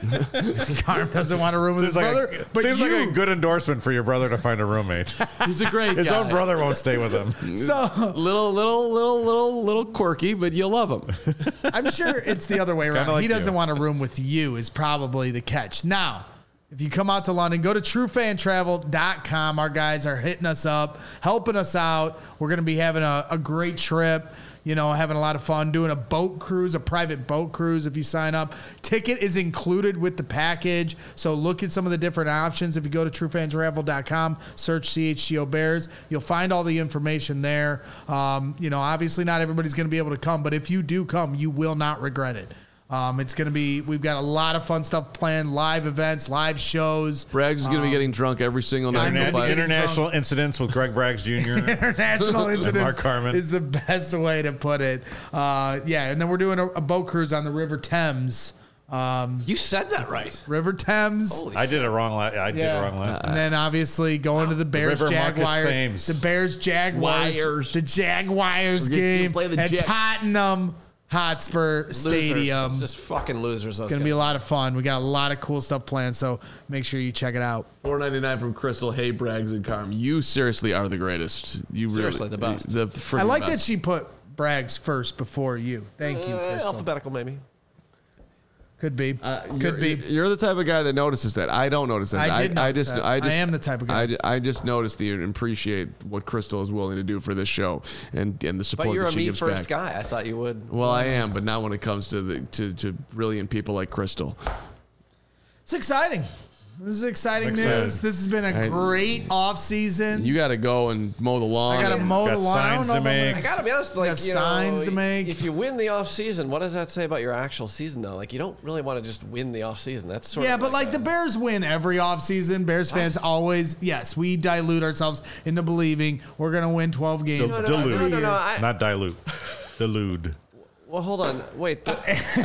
Speaker 3: Carm doesn't want a room with his
Speaker 1: Seems like,
Speaker 3: brother,
Speaker 1: a,
Speaker 3: but
Speaker 1: seems
Speaker 3: you.
Speaker 1: like a good endorsement for your brother to find a roommate.
Speaker 2: He's a great
Speaker 1: His
Speaker 2: guy.
Speaker 1: own brother won't stay with him.
Speaker 3: So
Speaker 2: Little, little, little, little, little quirky, but you'll love him.
Speaker 3: I'm sure it's the other way around.
Speaker 1: like
Speaker 3: he doesn't
Speaker 1: you.
Speaker 3: want a room with you is probably the catch. Now, if you come out to London, go to true fan travel dot com. Our guys are hitting us up, helping us out. We're going to be having a, a great trip. You know, having a lot of fun, doing a boat cruise, a private boat cruise if you sign up. Ticket is included with the package. So look at some of the different options. If you go to true fan travel dot com, search C H G O Bears, you'll find all the information there. Um, you know, obviously not everybody's going to be able to come, but if you do come, you will not regret it. Um, it's going to be, we've got a lot of fun stuff planned, live events, live shows.
Speaker 2: Braggs is going to be getting drunk every single night.
Speaker 3: I'm
Speaker 2: until
Speaker 3: gonna be
Speaker 2: five.
Speaker 3: getting
Speaker 1: International incidents with Greg Braggs Junior
Speaker 3: International incidents
Speaker 1: Mark Carmen.
Speaker 3: is the best way to put it. Uh, yeah, and then we're doing a, a boat cruise on the River Thames. Um,
Speaker 4: You said that right.
Speaker 3: River Thames.
Speaker 4: Holy
Speaker 1: I did it wrong. La- I did
Speaker 3: Yeah.
Speaker 1: it wrong last time.
Speaker 3: And then obviously going to the Bears
Speaker 1: River Marcus
Speaker 3: Jaguars,
Speaker 1: Thames.
Speaker 3: the Bears Jaguars,
Speaker 2: Wires.
Speaker 3: the Jaguars
Speaker 2: We're gonna
Speaker 3: game
Speaker 2: play the
Speaker 3: at
Speaker 2: Jet-
Speaker 3: Tottenham Hotspur
Speaker 4: Losers.
Speaker 3: Stadium.
Speaker 4: Just fucking losers.
Speaker 3: It's going to be a lot of fun. We got a lot of cool stuff planned, so make sure you check it out.
Speaker 2: four ninety-nine from Crystal. Hey, Braggs and Carm. You seriously are the greatest. You
Speaker 4: Seriously
Speaker 2: really,
Speaker 4: the best.
Speaker 2: The freaking
Speaker 3: I like
Speaker 2: best.
Speaker 3: that she put Braggs first before you. Thank you,
Speaker 4: Uh,
Speaker 3: Crystal.
Speaker 4: alphabetical, maybe.
Speaker 3: Could be.
Speaker 2: Uh,
Speaker 3: Could
Speaker 2: you're,
Speaker 3: be.
Speaker 2: You're the type of guy that notices that. I don't notice that.
Speaker 3: I did
Speaker 2: I,
Speaker 3: notice
Speaker 2: just,
Speaker 3: that.
Speaker 2: I just,
Speaker 3: I am the type of guy.
Speaker 2: I, I just noticed the and appreciate what Crystal is willing to do for this show and and the support
Speaker 4: But you're
Speaker 2: that
Speaker 4: a
Speaker 2: she
Speaker 4: me
Speaker 2: gives
Speaker 4: first
Speaker 2: back.
Speaker 4: guy. I thought you would.
Speaker 2: Well, I am, but not when it comes to the to, to brilliant people like Crystal.
Speaker 3: It's exciting. This is exciting
Speaker 1: Excited.
Speaker 3: news. This has been a
Speaker 2: I-
Speaker 3: great off season.
Speaker 2: You got to go and mow the lawn.
Speaker 3: I got to
Speaker 2: and-
Speaker 3: mow
Speaker 1: Got
Speaker 3: the lawn. I don't
Speaker 1: signs
Speaker 3: know
Speaker 1: to
Speaker 3: if I'm
Speaker 1: make.
Speaker 4: I
Speaker 3: gonna-
Speaker 4: gotta be honest, like
Speaker 3: got
Speaker 4: you
Speaker 3: signs
Speaker 4: know,
Speaker 3: to make.
Speaker 4: if you win the off season, what does that say about your actual season though? Like you don't really want to just win the off season. That's sort
Speaker 3: Yeah,
Speaker 4: of
Speaker 3: but like
Speaker 4: a-
Speaker 3: the Bears win every offseason. Bears fans always, yes, we dilute ourselves into believing we're going to win twelve games.
Speaker 4: No, no,
Speaker 1: Delude.
Speaker 4: no, no, no, I-
Speaker 1: Not dilute. Delude.
Speaker 4: Well, hold on. Wait. but-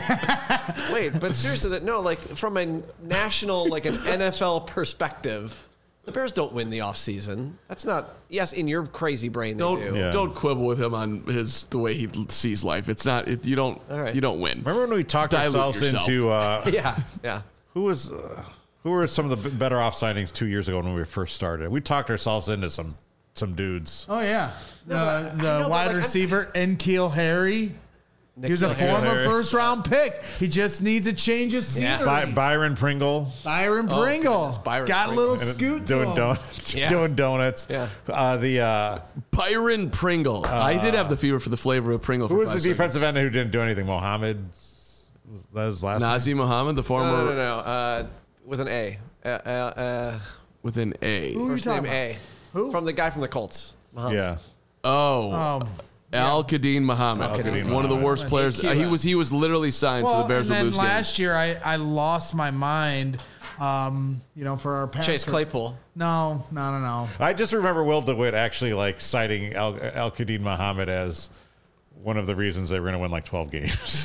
Speaker 4: wait, but seriously, that no, like from a national, like an N F L perspective, the Bears don't win the offseason. That's not. Yes, in your crazy brain, they
Speaker 2: Don't
Speaker 4: do.
Speaker 1: Yeah.
Speaker 2: don't quibble with him on his the way he sees life. It's not. It, you don't.
Speaker 4: All right.
Speaker 2: You don't win.
Speaker 1: Remember when we talked
Speaker 2: Dilute
Speaker 1: ourselves
Speaker 2: yourself.
Speaker 1: into uh,
Speaker 4: Yeah, yeah.
Speaker 1: who was uh, who were some of the b- better off signings two years ago when we first started? We talked ourselves into some some dudes.
Speaker 3: Oh, yeah. The,
Speaker 4: but-
Speaker 3: the
Speaker 4: no, but
Speaker 3: wide
Speaker 4: like, I'm-
Speaker 3: receiver, N'Keal Harry. He was a
Speaker 4: N'Keal
Speaker 3: former
Speaker 1: Harry.
Speaker 3: first round pick. He just needs a change of
Speaker 4: Yeah.
Speaker 3: scenery.
Speaker 1: By, Byron Pringle.
Speaker 3: Byron
Speaker 4: Oh,
Speaker 3: Pringle.
Speaker 4: goodness, Byron
Speaker 3: Got a
Speaker 4: Pringle.
Speaker 3: little scoot to
Speaker 1: doing
Speaker 3: him.
Speaker 1: donuts.
Speaker 4: Yeah.
Speaker 1: Doing donuts.
Speaker 4: Yeah.
Speaker 1: Uh, the uh,
Speaker 2: Byron Pringle. I did have the fever for the flavor of Pringle.
Speaker 1: who
Speaker 2: for
Speaker 1: was the
Speaker 2: five
Speaker 1: defensive
Speaker 2: seconds.
Speaker 1: end who didn't do anything? Mohammed. Was that his last? name?
Speaker 2: Nazi Muhammad, the former
Speaker 4: No, no, no, no. Uh, with an A. Uh, uh, uh,
Speaker 2: with an A.
Speaker 3: Who are you
Speaker 4: first name
Speaker 3: talking
Speaker 4: A.
Speaker 3: Who?
Speaker 4: From the guy from the Colts. Muhammad.
Speaker 1: Yeah.
Speaker 2: Oh,
Speaker 3: about? Um,
Speaker 2: Al Qadim Muhammad,
Speaker 1: Al-Qadim
Speaker 2: one of the
Speaker 1: Muhammad.
Speaker 2: worst players. Uh, he was he was literally signed so
Speaker 3: well,
Speaker 2: the Bears
Speaker 3: and
Speaker 2: would
Speaker 3: then
Speaker 2: lose games.
Speaker 3: last year I, I lost my mind, um, you know, for our pass.
Speaker 4: Chase Claypool.
Speaker 3: No, no, no, no.
Speaker 1: I just remember Will DeWitt actually like citing Al, Al Qadim Muhammad as one of the reasons they were going to win like twelve games.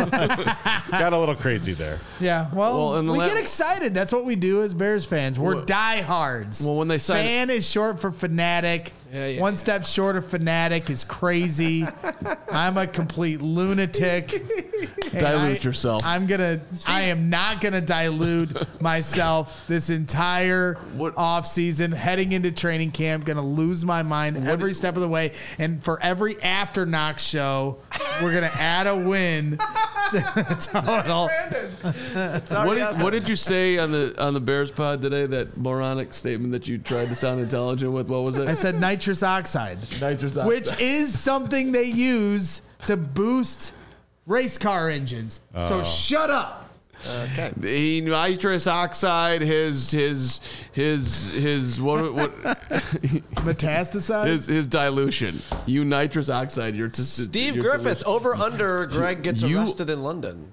Speaker 1: Got a little crazy there.
Speaker 3: Yeah, well,
Speaker 2: Well, and the
Speaker 3: we
Speaker 2: la-
Speaker 3: get excited. That's what we do as Bears fans. We're
Speaker 2: Well-
Speaker 3: diehards.
Speaker 2: well, when they sign-
Speaker 3: fan is short for fanatic.
Speaker 4: Yeah, yeah,
Speaker 3: One
Speaker 4: yeah.
Speaker 3: step short of fanatic is crazy. I'm a complete lunatic. And
Speaker 2: Dilute
Speaker 3: I-
Speaker 2: yourself.
Speaker 3: I'm gonna. I am not gonna dilute myself this entire
Speaker 2: What-
Speaker 3: off season. Heading into training camp, gonna lose my mind every step of the way. And for every after Knox show, we're gonna add a win to the total.
Speaker 2: What did, what did you say on the on the Bears pod today? That moronic statement that you tried to sound intelligent with. What was it?
Speaker 3: I said nitrous oxide,
Speaker 2: Nitrous oxide.
Speaker 3: which is something they use to boost race car engines. So shut up.
Speaker 4: Okay.
Speaker 2: He nitrous oxide. His his his his what what
Speaker 3: Metastasize.
Speaker 2: his his dilution. You nitrous oxide. You're just
Speaker 4: Steve
Speaker 2: you're
Speaker 4: Griffith,
Speaker 2: delicious.
Speaker 4: over under Greg gets
Speaker 2: You-
Speaker 4: arrested in London.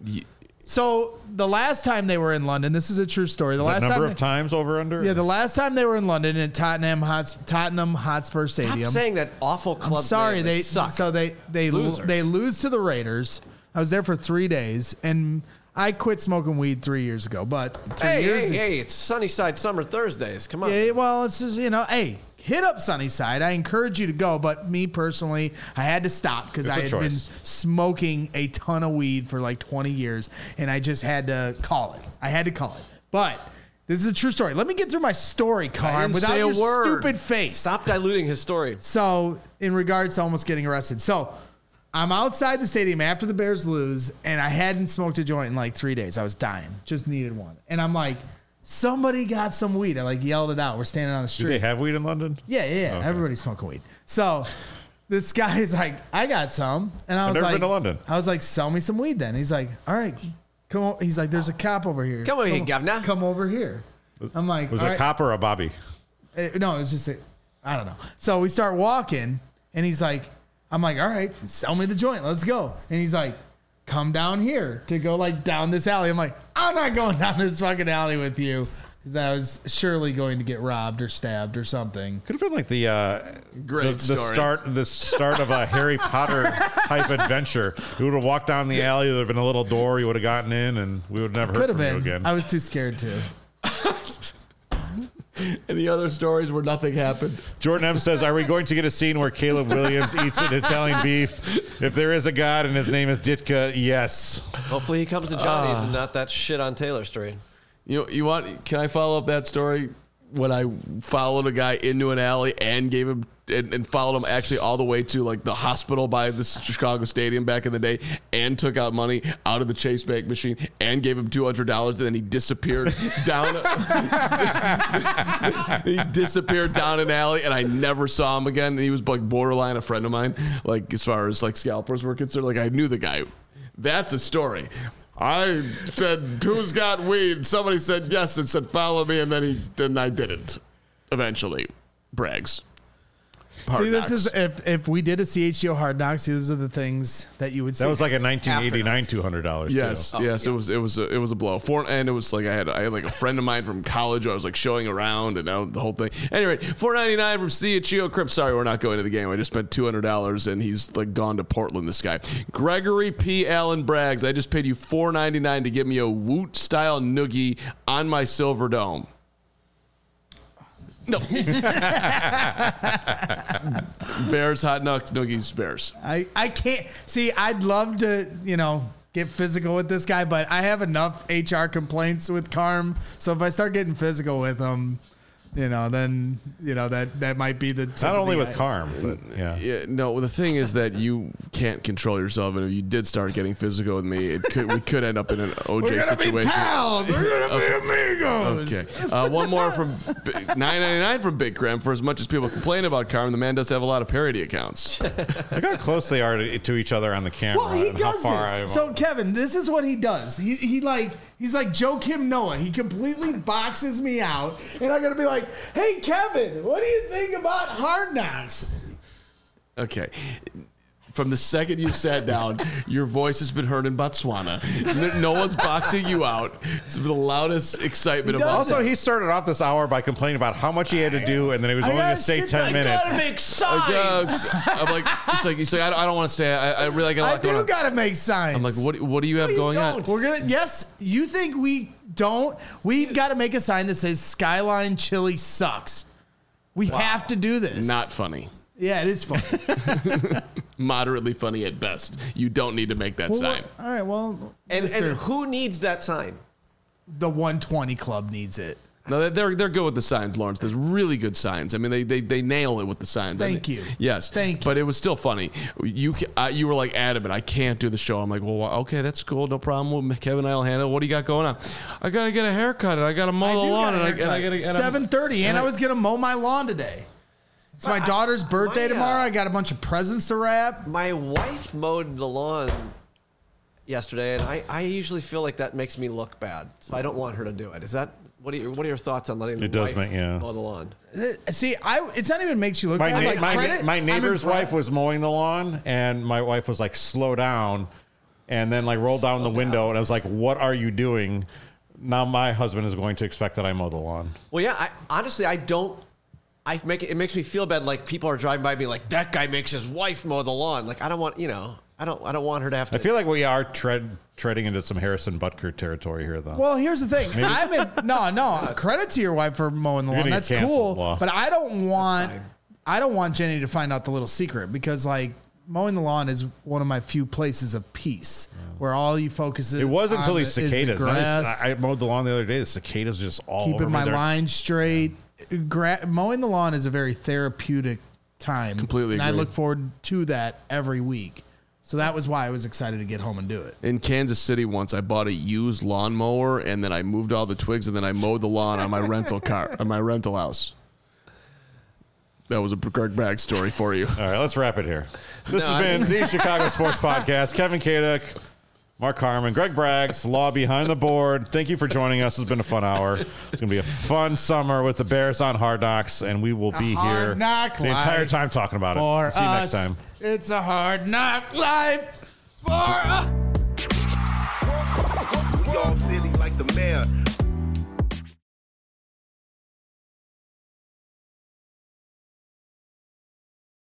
Speaker 3: So the last time they were in London, this is a true story. The
Speaker 1: That
Speaker 3: last
Speaker 1: number
Speaker 3: time
Speaker 1: of times over under?
Speaker 3: Yeah, the last time they were in London at Tottenham Hot, Tottenham Hotspur
Speaker 4: Stop
Speaker 3: Stadium.
Speaker 4: saying that awful club
Speaker 3: I'm sorry,
Speaker 4: name.
Speaker 3: they
Speaker 4: suck.
Speaker 3: so they they
Speaker 4: Losers.
Speaker 3: they lose to the Raiders. I was there for three days, and I quit smoking weed three years ago. But three
Speaker 4: hey,
Speaker 3: years
Speaker 4: hey, hey, it's Sunnyside Summer Thursdays. Come on.
Speaker 3: Yeah, well, it's just, you know, hey, hit up Sunnyside. I encourage you to go, but me personally, I had to stop because
Speaker 1: It's
Speaker 3: I
Speaker 1: a
Speaker 3: had
Speaker 1: choice.
Speaker 3: been smoking a ton of weed for like twenty years, and I just had to call it. I had to call it. But this is a true story. Let me get through my story, Carm,
Speaker 2: didn't
Speaker 3: without
Speaker 2: say a
Speaker 3: your
Speaker 2: word.
Speaker 3: stupid face.
Speaker 4: Stop diluting his story.
Speaker 3: So, in regards to almost getting arrested, so I'm outside the stadium after the Bears lose, and I hadn't smoked a joint in like three days. I was dying, just needed one, and I'm like, somebody got some weed. I like yelled it out. We're standing on the
Speaker 1: Do
Speaker 3: street.
Speaker 1: they have weed in London?
Speaker 3: Yeah, yeah, yeah.
Speaker 1: Okay.
Speaker 3: Everybody's smoking weed. So this guy's like, I got some. And I was
Speaker 1: never
Speaker 3: like,
Speaker 1: been to London.
Speaker 3: I was like, sell me some weed then. He's like, all right, come on. He's like, there's a cop over here.
Speaker 4: Come over here, governor.
Speaker 3: Come over here. I'm like,
Speaker 1: Was
Speaker 3: all
Speaker 1: it a
Speaker 3: right.
Speaker 1: cop or a Bobby?
Speaker 3: Uh, no, it was just, a, I don't know. So we start walking and he's like, I'm like, all right, sell me the joint. Let's go. And he's like, come down here to go like down this alley. I'm like, I'm not going down this fucking alley with you. Because I was surely going to get robbed or stabbed or something.
Speaker 1: Could have been like the uh,
Speaker 2: Great
Speaker 1: the, the
Speaker 2: story.
Speaker 1: start the start of a Harry Potter type adventure. We would have walked down the alley. There would have been a little door. You would have gotten in, and we would have never
Speaker 3: Could
Speaker 1: heard
Speaker 3: have
Speaker 1: from you
Speaker 3: been.
Speaker 1: again.
Speaker 3: I was too scared to.
Speaker 2: Any other stories where nothing happened?
Speaker 1: Jordan M says, "Are we going to get a scene where Caleb Williams eats an Italian beef? If there is a God and his name is Ditka, yes."
Speaker 4: Hopefully he comes to Johnny's and not that shit on Taylor Street.
Speaker 2: You you want? Can I follow up that story? When I followed a guy into an alley and gave him and, and followed him actually all the way to like the hospital by the Chicago Stadium back in the day, and took out money out of the Chase Bank machine and gave him two hundred dollars, and then he disappeared down. He disappeared down an alley, and I never saw him again. And he was like borderline a friend of mine, like as far as like scalpers were concerned. Like I knew the guy. That's a story. I said, "Who's got weed?" Somebody said yes and said, "Follow me," and then he then I didn't. Eventually, brags. Hard
Speaker 3: See, this
Speaker 2: Knocks.
Speaker 3: is if if we did a C H G O Hard Knocks, these are the things that you would see.
Speaker 1: That was like a nineteen eighty-nine two hundred dollars.
Speaker 2: Yes, yes, it was it was a, it was a blow. For and it was like I had I had like a friend of mine from college who I was like showing around and now the whole thing. Anyway, four ninety nine from C H G O Crip. Sorry, we're not going to the game. I just spent two hundred dollars and he's like gone to Portland. This guy, Gregory P. Allen Braggs. I just paid you four ninety nine to give me a Woot style noogie on my Silver Dome. No. Bears, hot nuts, noogies, Bears.
Speaker 3: I I can't see. I'd love to you know get physical with this guy, but I have enough H R complaints with Carm. So if I start getting physical with him, you know, then you know that that might be the
Speaker 1: Not only with
Speaker 3: I-
Speaker 1: Carm, but yeah.
Speaker 2: Yeah, no. The thing is that you can't control yourself, and if you did start getting physical with me, it could we could end up in an O J
Speaker 3: We're gonna
Speaker 2: situation.
Speaker 3: be pals. We're gonna be amigos.
Speaker 2: Okay. Uh, one more from nine ninety-nine from Big Graham. For as much as people complain about Carm, the man does have a lot of parody accounts.
Speaker 1: Look how close they are to, to each other on the camera.
Speaker 3: Well, he
Speaker 1: and how
Speaker 3: does
Speaker 1: far I-
Speaker 3: this. So Kevin, this is what he does. He he like he's like Joe Kim Noah. He completely boxes me out, and I'm gonna be like, "Hey Kevin, what do you think about Hard Knocks?"
Speaker 2: Okay. From the second you sat down, your voice has been heard in Botswana. No, no one's boxing you out. It's the loudest excitement
Speaker 3: He
Speaker 2: of all.
Speaker 3: does
Speaker 1: Also, he started off this hour by complaining about how much he had to do, and then he was
Speaker 3: I
Speaker 1: only
Speaker 3: got
Speaker 1: going to stay
Speaker 3: shit
Speaker 1: ten
Speaker 3: I
Speaker 1: minutes.
Speaker 4: Gotta make
Speaker 2: Like,
Speaker 4: signs.
Speaker 2: uh, I'm like, he's like, he's like, I don't, I don't want to stay. I, I really got a
Speaker 3: I
Speaker 2: lot going
Speaker 3: do
Speaker 2: on.
Speaker 3: gotta make signs.
Speaker 2: I'm like, what? What do you have
Speaker 4: you
Speaker 2: going on?
Speaker 4: don't.
Speaker 3: We're gonna yes. You think we don't? We've got to make a sign that says Skyline Chili sucks. We have to do this.
Speaker 2: Not funny.
Speaker 3: Yeah, it is funny.
Speaker 2: Moderately funny at best. You don't need to make that
Speaker 3: Well,
Speaker 2: sign.
Speaker 3: All right, well,
Speaker 4: And,
Speaker 3: Mister
Speaker 4: and who needs that sign?
Speaker 3: the one twenty Club needs it.
Speaker 2: No, they're they're good with the signs, Lawrence. There's really good signs. I mean, they they, they nail it with the signs.
Speaker 3: Thank
Speaker 2: I mean,
Speaker 3: you.
Speaker 2: Yes,
Speaker 3: Thank you.
Speaker 2: But it was still funny. You ca- uh, you were like adamant. I can't do the show. I'm like, well, okay, that's cool, no problem. Well, Kevin and I'll handle it. What do you got going on? I gotta get a haircut and I gotta mow
Speaker 3: I
Speaker 2: the
Speaker 3: do
Speaker 2: lawn
Speaker 3: got a
Speaker 2: and I, and I
Speaker 3: haircut.
Speaker 2: gotta and I'm-
Speaker 3: seven thirty, and,
Speaker 2: and
Speaker 3: I
Speaker 2: I-
Speaker 3: was gonna mow my lawn today. It's my
Speaker 4: But I-
Speaker 3: daughter's birthday
Speaker 4: my, uh,
Speaker 3: tomorrow. I got a bunch of presents to wrap.
Speaker 4: My wife mowed the lawn yesterday, and I, I usually feel like that makes me look bad, so I don't want her to do it. Is that what are your, what are your thoughts on letting the
Speaker 1: It does
Speaker 4: wife
Speaker 1: make- yeah.
Speaker 4: mow the lawn?
Speaker 3: Uh, See, I it's not even makes you look
Speaker 1: My,
Speaker 3: bad.
Speaker 1: na-
Speaker 3: Like,
Speaker 1: my,
Speaker 3: credit,
Speaker 1: my
Speaker 3: I'm
Speaker 1: neighbor's
Speaker 3: impressed.
Speaker 1: wife was mowing the lawn, and my wife was like, slow down, and then like rolled down the window, and I was like, what are you doing? Now my husband is going to expect that I mow the lawn.
Speaker 4: Well, yeah. I, honestly, I don't. I make it, it makes me feel bad. Like people are driving by me, like that guy makes his wife mow the lawn. Like I don't want, you know, I don't, I don't want her to have to.
Speaker 1: I feel like we are tread treading into some Harrison Butker territory here, though.
Speaker 3: Well, here's the thing. I'm in, no, no. Credit to your wife for mowing the
Speaker 1: You're
Speaker 3: lawn.
Speaker 1: gonna
Speaker 3: That's
Speaker 1: get canceled,
Speaker 3: cool.
Speaker 1: Law.
Speaker 3: But I don't want.
Speaker 4: fine.
Speaker 3: I don't want Jenny to find out the little secret because, like, mowing the lawn is one of my few places of peace where all you focus.
Speaker 1: it was until
Speaker 3: on
Speaker 1: these
Speaker 3: is the
Speaker 1: cicadas. I,
Speaker 3: grass.
Speaker 1: just- I mowed the lawn the other day. The cicadas just all over
Speaker 3: keeping
Speaker 1: me.
Speaker 3: my
Speaker 1: They're-
Speaker 3: line straight. Gra- mowing the lawn is a very therapeutic time.
Speaker 2: Completely
Speaker 3: and I
Speaker 2: agree.
Speaker 3: look forward to that every week. So that was why I was excited to get home and do it.
Speaker 2: In Kansas City once, I bought a used lawnmower and then I moved all the twigs and then I mowed the lawn on my rental car, on my rental house. That was a Greg Bragg story for you.
Speaker 1: All right, let's wrap it here. This
Speaker 2: No,
Speaker 1: has
Speaker 2: I-
Speaker 1: been the Chicago Sports Podcast. Kevin Kaduk, Mark Harmon, Greg Braggs, Law Behind the Board. Thank you for joining us. It's been a fun hour. It's going to be a fun summer with the Bears on Hard Knocks, and we will be
Speaker 3: Hard
Speaker 1: here
Speaker 3: knock
Speaker 1: the entire
Speaker 3: life
Speaker 1: time talking about
Speaker 3: For
Speaker 1: it. See you next
Speaker 3: us,
Speaker 1: time.
Speaker 3: It's a hard knock life for us.
Speaker 5: We all silly like the mayor.